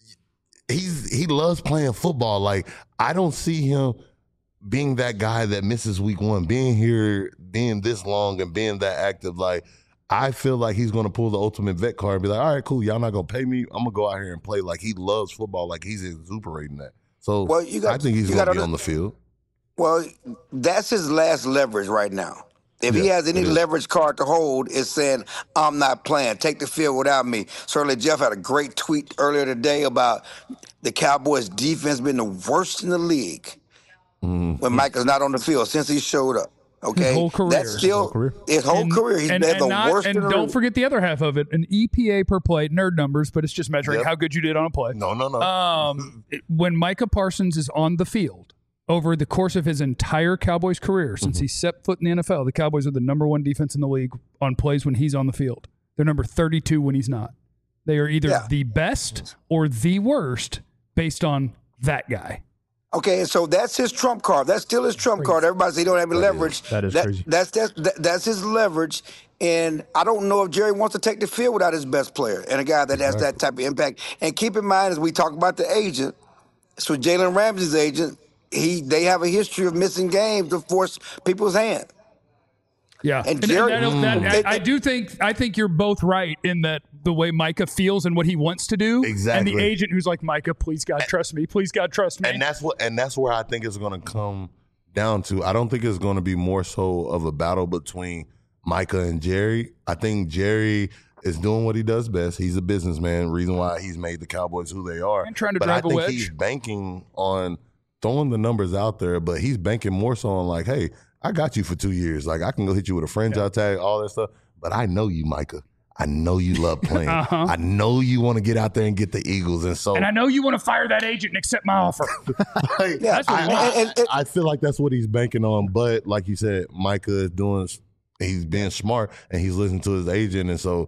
he loves playing football. Like I don't see him being that guy that misses week one, being here, being this long, and being that active. Like I feel like he's going to pull the ultimate vet card and be like, all right, cool, y'all not going to pay me. I'm going to go out here and play. Like he loves football. Like he's exuberating that. So Well, I think he's going to be on the field. Well, that's his last leverage right now. If he has any leverage card to hold, it's saying, I'm not playing. Take the field without me. Certainly, Jeff had a great tweet earlier today about the Cowboys' defense being the worst in the league when Micah's not on the field since he showed up. Okay? His whole career. That's still his whole career. He's been the worst in the And don't league. forget the other half of it, an EPA per play, nerd numbers, but it's just measuring Yep. how good you did on a play. No. When Micah Parsons is on the field, over the course of his entire Cowboys career, since he set foot in the NFL, the Cowboys are the number one defense in the league on plays when he's on the field. They're number 32 when he's not. They are either the best or the worst based on that guy. Okay, so that's his trump card. That's still his trump card. Everybody say he don't have any leverage. That is crazy. That's his leverage. And I don't know if Jerry wants to take the field without his best player and a guy that has that type of impact. And keep in mind, as we talk about the agent, so Jalen Ramsey's agent, they have a history of missing games to force people's hand. Yeah, And Jerry- I think you're both right in that the way Micah feels and what he wants to do, Exactly. and the agent who's like, Micah, please God trust me, please God trust me. And that's where I think it's going to come down to. I don't think it's going to be more so of a battle between Micah and Jerry. I think Jerry is doing what he does best. He's a businessman. Reason why he's made the Cowboys who they are. And trying to but drive I a think wedge. he's banking on throwing the numbers out there, but he's banking more so on like, hey, I got you for 2 years. Like I can go hit you with a franchise tag, all that stuff. But I know you, Micah. I know you love playing. I know you want to get out there and get the Eagles. And so And I know you want to fire that agent and accept my offer. like, That's what he wants. I feel like that's what he's banking on. But like you said, Micah is he's being smart and he's listening to his agent. And so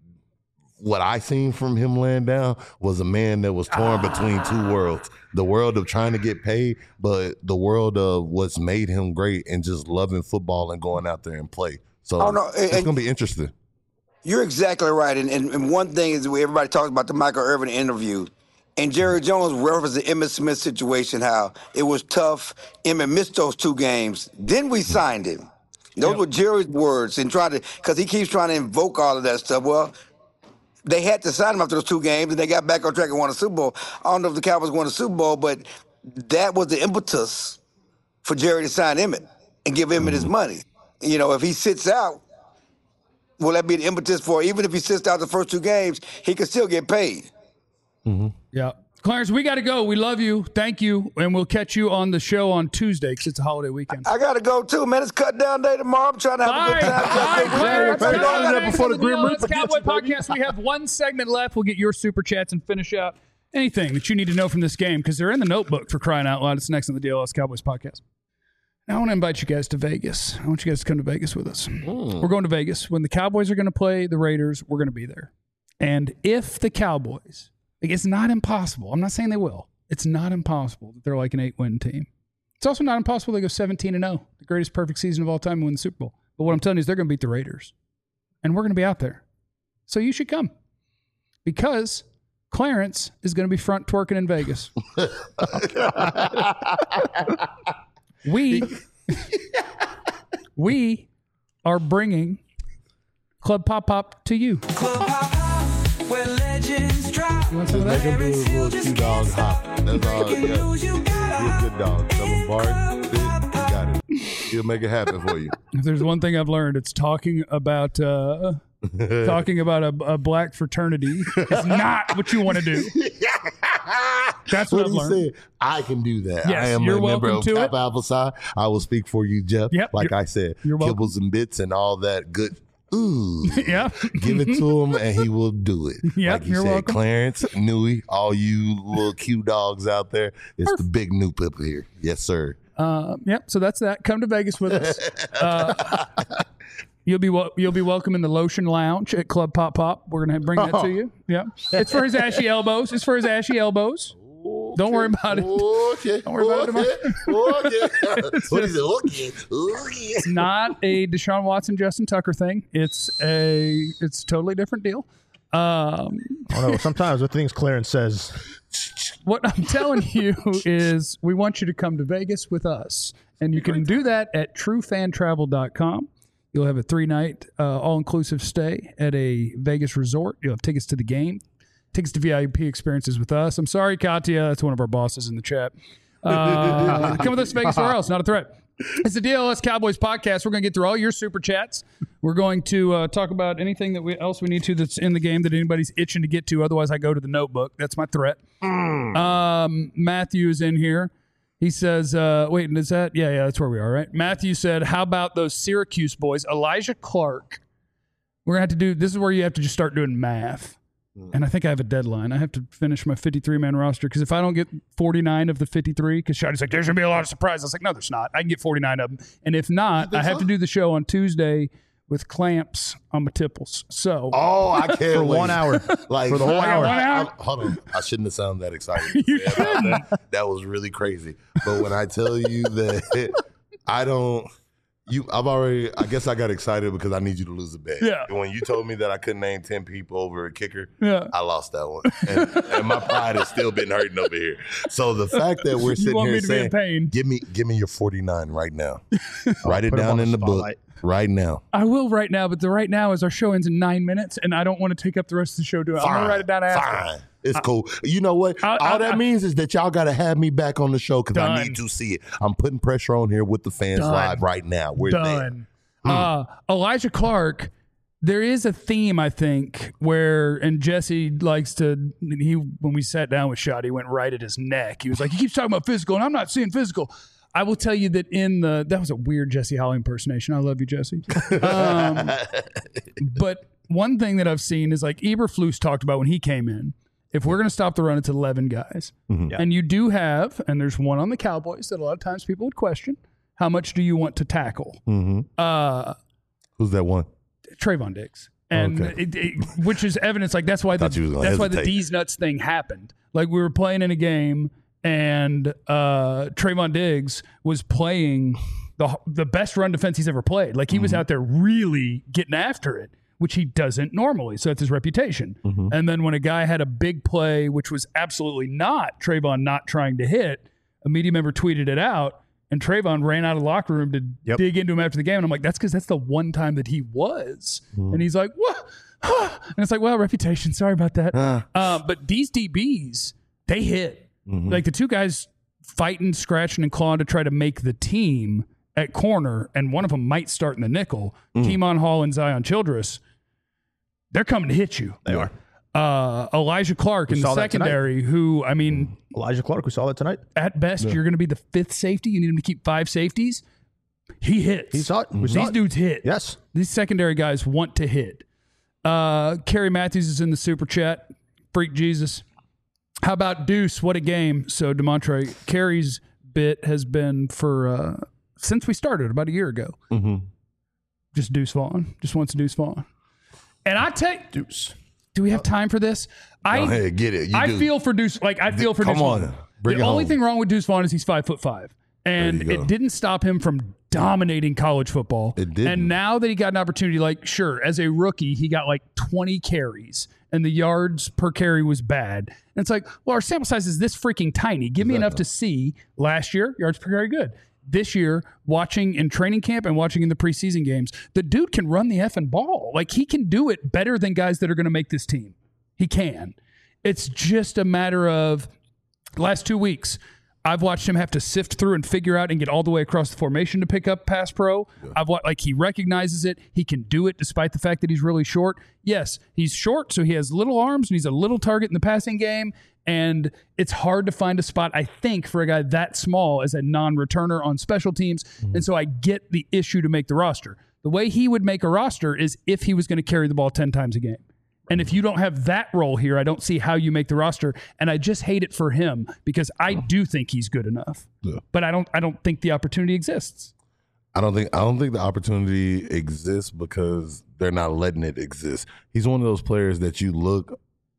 what I seen from him laying down was a man that was torn between two worlds. The world of trying to get paid, but the world of what's made him great and just loving football and going out there and play. So it's going to be interesting. You're exactly right. And one thing is everybody talks about the Michael Irvin interview. And Jerry Jones referenced the Emmitt Smith situation, how it was tough. Emmitt missed those 2 games. Then we signed him. Those were Jerry's words, and because he keeps trying to invoke all of that stuff. Well, they had to sign him after those 2 games, and they got back on track and won a Super Bowl. I don't know if the Cowboys won a Super Bowl, but that was the impetus for Jerry to sign Emmitt and give Emmitt his money. You know, if he sits out, will that be the impetus for, even if he sits out the first 2 games, he could still get paid. Yeah. Clarence, we got to go. We love you. Thank you. And we'll catch you on the show on Tuesday because it's a holiday weekend. I got to go too, man. It's cut down day tomorrow. I'm trying to have a Bye. good time. Bye, Clarence. Bye. Bye. Bye. Thanks Before for the Grim deal. Reaper It's Cowboy gets you, baby. Podcast. We have 1 segment left. We'll get your super chats and finish out anything that you need to know from this game because they're in the notebook for crying out loud. It's next on the DLS Cowboys Podcast. Now I want to invite you guys to Vegas. I want you guys to come to Vegas with us. We're going to Vegas. When the Cowboys are going to play the Raiders, we're going to be there. And if the Cowboys, like, it's not impossible. I'm not saying they will. It's not impossible that they're like an 8-win team. It's also not impossible they go 17-0, the greatest perfect season of all time, and win the Super Bowl. But what I'm telling you is they're going to beat the Raiders. And we're going to be out there. So you should come. Because Clarence is going to be front twerking in Vegas. We are bringing Club Pop Pop to you. Club Pop Pop, where legends drop. You want some of Make that? him do his little Q dog hop. That's all. Breaking Yeah. news, you He's a good dog. Tell him bark. Sit. He got it. He'll make it happen for you. If there's one thing I've learned, it's talking about a black fraternity is not what you want to do. That's what I've he learned. said, I can do that. Yes, I am you're a member welcome of to Kappa it. Alpha Psi. I will speak for you, Jeff. Yep, Like you're- I said, you're welcome. kibbles and bits and all that good. Ooh. Yeah. Give it to him and he will do it. Yep, like you you're said, welcome. Clarence, Newey, all you little Q dogs out there. It's the big Noop up here. Yes, sir. Yep. So that's that. Come to Vegas with us. You'll be welcome in the Lotion Lounge at Club Pop Pop. We're gonna bring that to you. Yeah. It's for his ashy elbows. Don't worry about it. Okay. Don't worry about it. Okay. What is it? Okay. It's not a Deshaun Watson, Justin Tucker thing. It's a totally different deal. I don't know. Sometimes the things Clarence says. What I'm telling you is we want you to come to Vegas with us. And you can do that at truefantravel.com. You'll have a 3-night all-inclusive stay at a Vegas resort. You'll have tickets to the game, tickets to VIP experiences with us. I'm sorry, Katya. That's one of our bosses in the chat. Come with us to Vegas or else. Not a threat. It's the DLS Cowboys podcast. We're going to get through all your super chats. We're going to talk about anything that else we need to that's in the game that anybody's itching to get to. Otherwise, I go to the notebook. That's my threat. Matthew is in here. He says, wait, is that? Yeah, that's where we are, right? Matthew said, how about those Syracuse boys? Elijah Clark. We're going to have to do, this is where you have to just start doing math. And I think I have a deadline. I have to finish my 53-man roster because if I don't get 49 of the 53, because Shotty's like, there's going to be a lot of surprises. I was like, no, there's not. I can get 49 of them. And if not, I have to do the show on Tuesday with clamps on my tipples. So, I can't For wait. 1 hour. Like For the whole hour. Hold on. I shouldn't have sounded that excited. That was really crazy. But when I tell you that I guess I got excited because I need you to lose a bet. Yeah. And when you told me that I couldn't name 10 people over a kicker, Yeah. I lost that one. And my pride has still been hurting over here. So the fact that we're sitting want here me to be in saying, pain. give me your 49 right now. Write it Put 'em down on in the book spotlight. right now. I will right now, but the right now is our show ends in 9 minutes, and I don't want to take up the rest of the show doing it. I'm going to write it down after. Fine. It's cool. You know what? All that means is that y'all got to have me back on the show because I need to see it. I'm putting pressure on here with the fans live right now. We're Done. Elijah Clark, there is a theme, I think, and Jesse likes to, when we sat down with Shotty, he went right at his neck. He was like, he keeps talking about physical, and I'm not seeing physical. I will tell you that that was a weird Jesse Holley impersonation. I love you, Jesse. But one thing that I've seen is like Eberflus talked about when he came in, if we're going to stop the run, it's 11 guys. And you do have, and there's one on the Cowboys that a lot of times people would question, how much do you want to tackle? Who's that one? Trayvon Diggs. And which is evidence, like that's why the D's nuts thing happened. Like we were playing in a game and Trayvon Diggs was playing the best run defense he's ever played. Like he was out there really getting after it, which he doesn't normally. So that's his reputation. And then when a guy had a big play, which was absolutely not Trayvon not trying to hit, a media member tweeted it out. And Trayvon ran out of the locker room to dig into him after the game. And I'm like, that's because that's the one time that he was. And he's like, what? And it's like, well, reputation. Sorry about that. But these DBs, they hit. Like the two guys fighting, scratching, and clawing to try to make the team at corner, and one of them might start in the nickel, Keemon Hall and Zion Childress, they're coming to hit you. They are. Elijah Clark in the secondary, who, I mean... Elijah Clark, we saw that tonight. At best, you're going to be the fifth safety. You need him to keep 5 safeties. He hits. He saw it. These dudes hit. Yes. These secondary guys want to hit. Kerry Matthews is in the super chat. Freak Jesus. How about Deuce? What a game. So, DeMontre, Kerry's bit has been for... since we started about a year ago. Just Deuce Vaughn. Just wants Deuce Vaughn. And I take... Deuce. Do we have time for this? Go ahead, get it. I feel for Deuce. Like I feel for Deuce Vaughn. The only thing wrong with Deuce Vaughn is he's 5'5", and it didn't stop him from dominating college football. It didn't. And now that he got an opportunity, like sure, as a rookie, he got like 20 carries, and the yards per carry was bad. And it's like, well, our sample size is this freaking tiny. Give me enough to see. Last year, yards per carry good. This year, watching in training camp and watching in the preseason games, the dude can run the effing ball. Like, he can do it better than guys that are going to make this team. He can. It's just a matter of last 2 weeks, I've watched him have to sift through and figure out and get all the way across the formation to pick up pass pro. I've watched, like, he recognizes it. He can do it despite the fact that he's really short. Yes, he's short, so he has little arms and he's a little target in the passing game. And it's hard to find a spot, I think, for a guy that small as a non-returner on special teams. And so I get the issue to make the roster. The way he would make a roster is if he was going to carry the ball 10 times a game. And if you don't have that role here, I don't see how you make the roster. And I just hate it for him because I do think he's good enough. But I don't think the opportunity exists. I don't think the opportunity exists because they're not letting it exist. He's one of those players that you look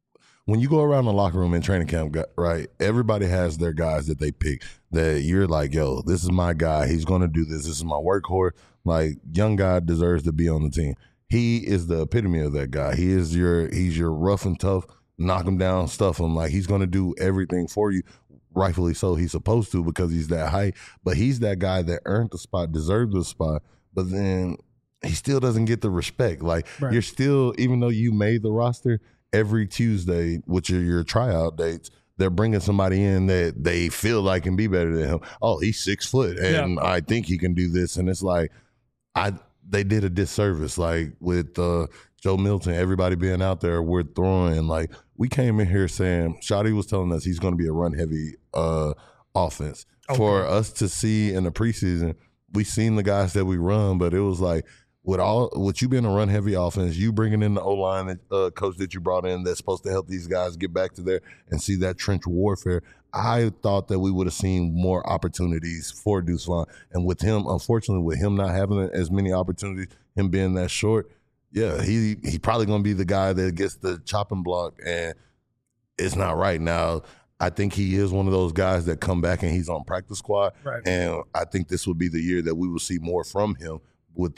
when you go around the locker room in training camp, right, everybody has their guys that they pick that you're like, yo, this is my guy. He's going to do this. This is my workhorse. Like, young guy deserves to be on the team. He is the epitome of that guy. He's your rough and tough, knock him down, stuff him. Like, he's going to do everything for you. Rightfully so. He's supposed to because he's that height. But he's that guy that earned the spot, deserved the spot. But then he still doesn't get the respect. Like, you're still, even though you made the roster, every Tuesday, which are your tryout dates, they're bringing somebody in that they feel like can be better than him. Oh, he's 6 foot, and I think he can do this. And it's like, they did a disservice, like with Joe Milton, everybody being out there, we're throwing. Like, we came in here saying, Shotty was telling us he's going to be a run-heavy offense. Okay. For us to see in the preseason, we seen the guys that we run, but it was like, with you being a run-heavy offense, you bringing in the O-line coach that you brought in that's supposed to help these guys get back to there and see that trench warfare, I thought that we would have seen more opportunities for Deuce Vaughn. And with him, unfortunately, with him not having as many opportunities, him being that short, he probably going to be the guy that gets the chopping block, and it's not right. Now, I think he is one of those guys that come back and he's on practice squad, and I think this would be the year that we will see more from him with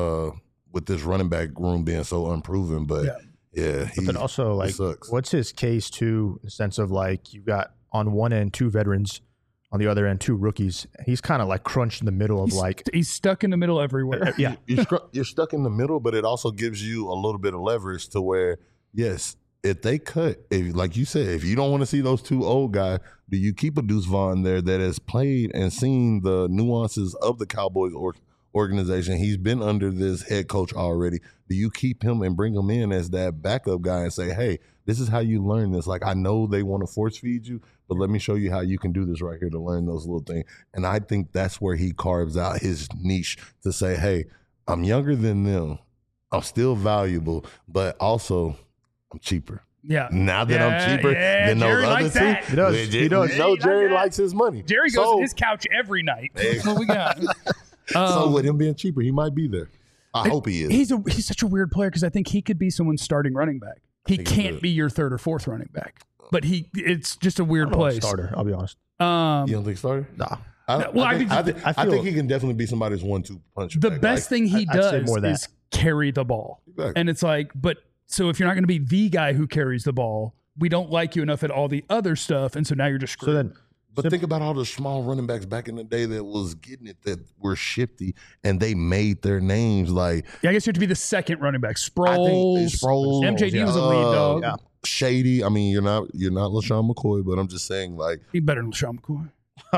this running back room being so unproven. But but then also, like, what's his case too, in the sense of, like, you got on one end 2 veterans, on the other end 2 rookies. He's kind of like crunched in the middle of he's stuck in the middle everywhere. You're stuck in the middle, but it also gives you a little bit of leverage to where, yes, if they cut, like you said, if you don't want to see those 2 old guys, do you keep a Deuce Vaughn there that has played and seen the nuances of the Cowboys organization? He's been under this head coach already. Do you keep him and bring him in as that backup guy and say, hey, this is how you learn this? Like, I know they want to force feed you, but let me show you how you can do this right here to learn those little things. And I think that's where he carves out his niche to say, hey, I'm younger than them. I'm still valuable, but also I'm cheaper. Yeah. Now that I'm cheaper than those Jerry other likes two, that. he does. No, Jerry likes his money. Jerry goes to his couch every night. That's what we got. So with him being cheaper, he might be there. I hope he is. He's such a weird player because I think he could be someone's starting running back. He can't be your 3rd or 4th running back, but it's just a weird place. Starter, I'll be honest. You don't think starter? Nah. I think he can definitely be somebody's 1-2 punch. The best thing he does is carry the ball. Exactly. And it's like, so if you're not going to be the guy who carries the ball, we don't like you enough at all the other stuff, and so now you're just screwed. But think about all the small running backs back in the day that was getting it, that were shifty, and they made their names. Like, I guess you have to be the second running back. Sproles, MJD was a lead dog. Yeah. Shady. I mean, you're not LaShawn McCoy, but I'm just saying, like, he's better than LaShawn McCoy.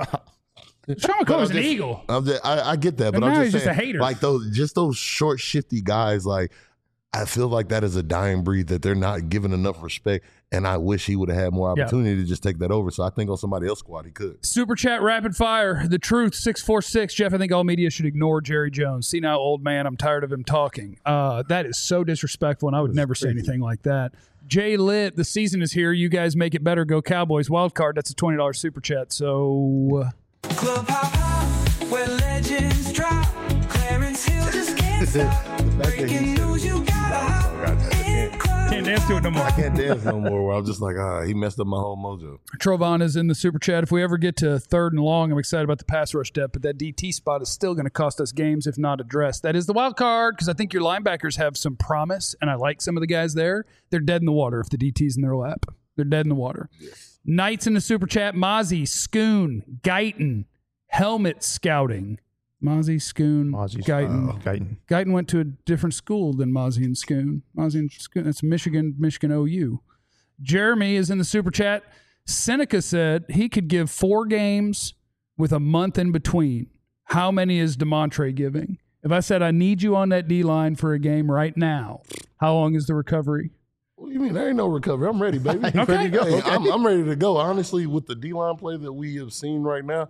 LaShawn McCoy was an eagle. I get that, but now I'm he's just saying, a hater. like, those short, shifty guys, like, I feel like that is a dying breed that they're not given enough respect, and I wish he would have had more opportunity to just take that over. So I think on somebody else's squad he could. Super chat rapid fire. The Truth 646. Jeff, I think all media should ignore Jerry Jones. See now, old man, I'm tired of him talking. That is so disrespectful, and I would never say anything like that. Jay Lit, the season is here. You guys make it better. Go Cowboys. Wild card. That's a $20 super chat. So Club Hop Hop, where legends drop. Clarence Hill just can't stop. Breaking news, you gotta hop in Club. can't dance to it no more. I can't dance no more. Where I'm just like, he messed up my whole mojo. Trovon is in the super chat. If we ever get to 3rd and long, I'm excited about the pass rush depth, but that DT spot is still going to cost us games if not addressed. That is the wild card because I think your linebackers have some promise, and I like some of the guys there. They're dead in the water if the DT's in their lap. They're dead in the water. Yes. Knights in the super chat. Mozzie, Schoon, Guyton, helmet scouting. Mozzie, Schoon, Guyton. Guyton went to a different school than Mozzie and Schoon. Mozzie and Schoon, that's Michigan OU. Jeremy is in the super chat. Seneca said he could give 4 games with a month in between. How many is DeMontre giving? If I said I need you on that D-line for a game right now, how long is the recovery? What do you mean? There ain't no recovery. I'm ready, baby. Okay. Ready to go. Hey, I'm ready to go. Honestly, with the D-line play that we have seen right now,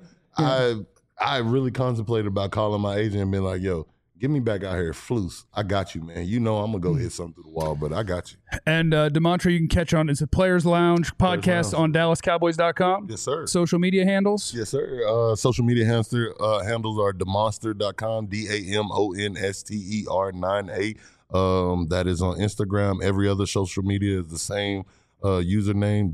I really contemplated about calling my agent and being like, yo, get me back out here. Flus, I got you, man. You know I'm going to go hit something through the wall, but I got you. And DeMontre, you can catch on. It's a Players Lounge podcast on DallasCowboys.com. Yes, sir. Social media handles? Yes, sir. Social media handles are demonster.com, DAMONSTER 98. That is on Instagram. Every other social media is the same. username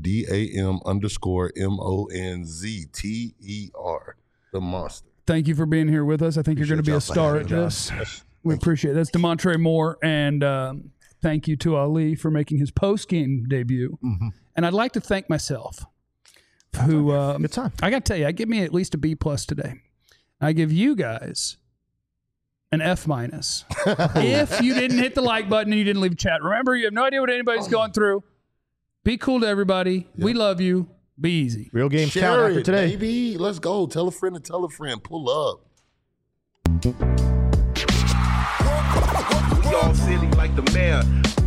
DAM_MONZTER. The Monster. Thank you for being here with us. I think you're going to be a star at this. We appreciate it. That's DeMontre Moore, and thank you to Ali for making his post-game debut. Mm-hmm. And I'd like to thank myself, who Good time. I got to tell you, I give me at least a B+ today. I give you guys an F-. If you didn't hit the like button and you didn't leave a chat. Remember, you have no idea what anybody's going through. Be cool to everybody. We love you. Be easy. Real games count Share after it, today. baby. Let's go. Tell a friend to tell a friend. Pull up. We all silly like the mayor.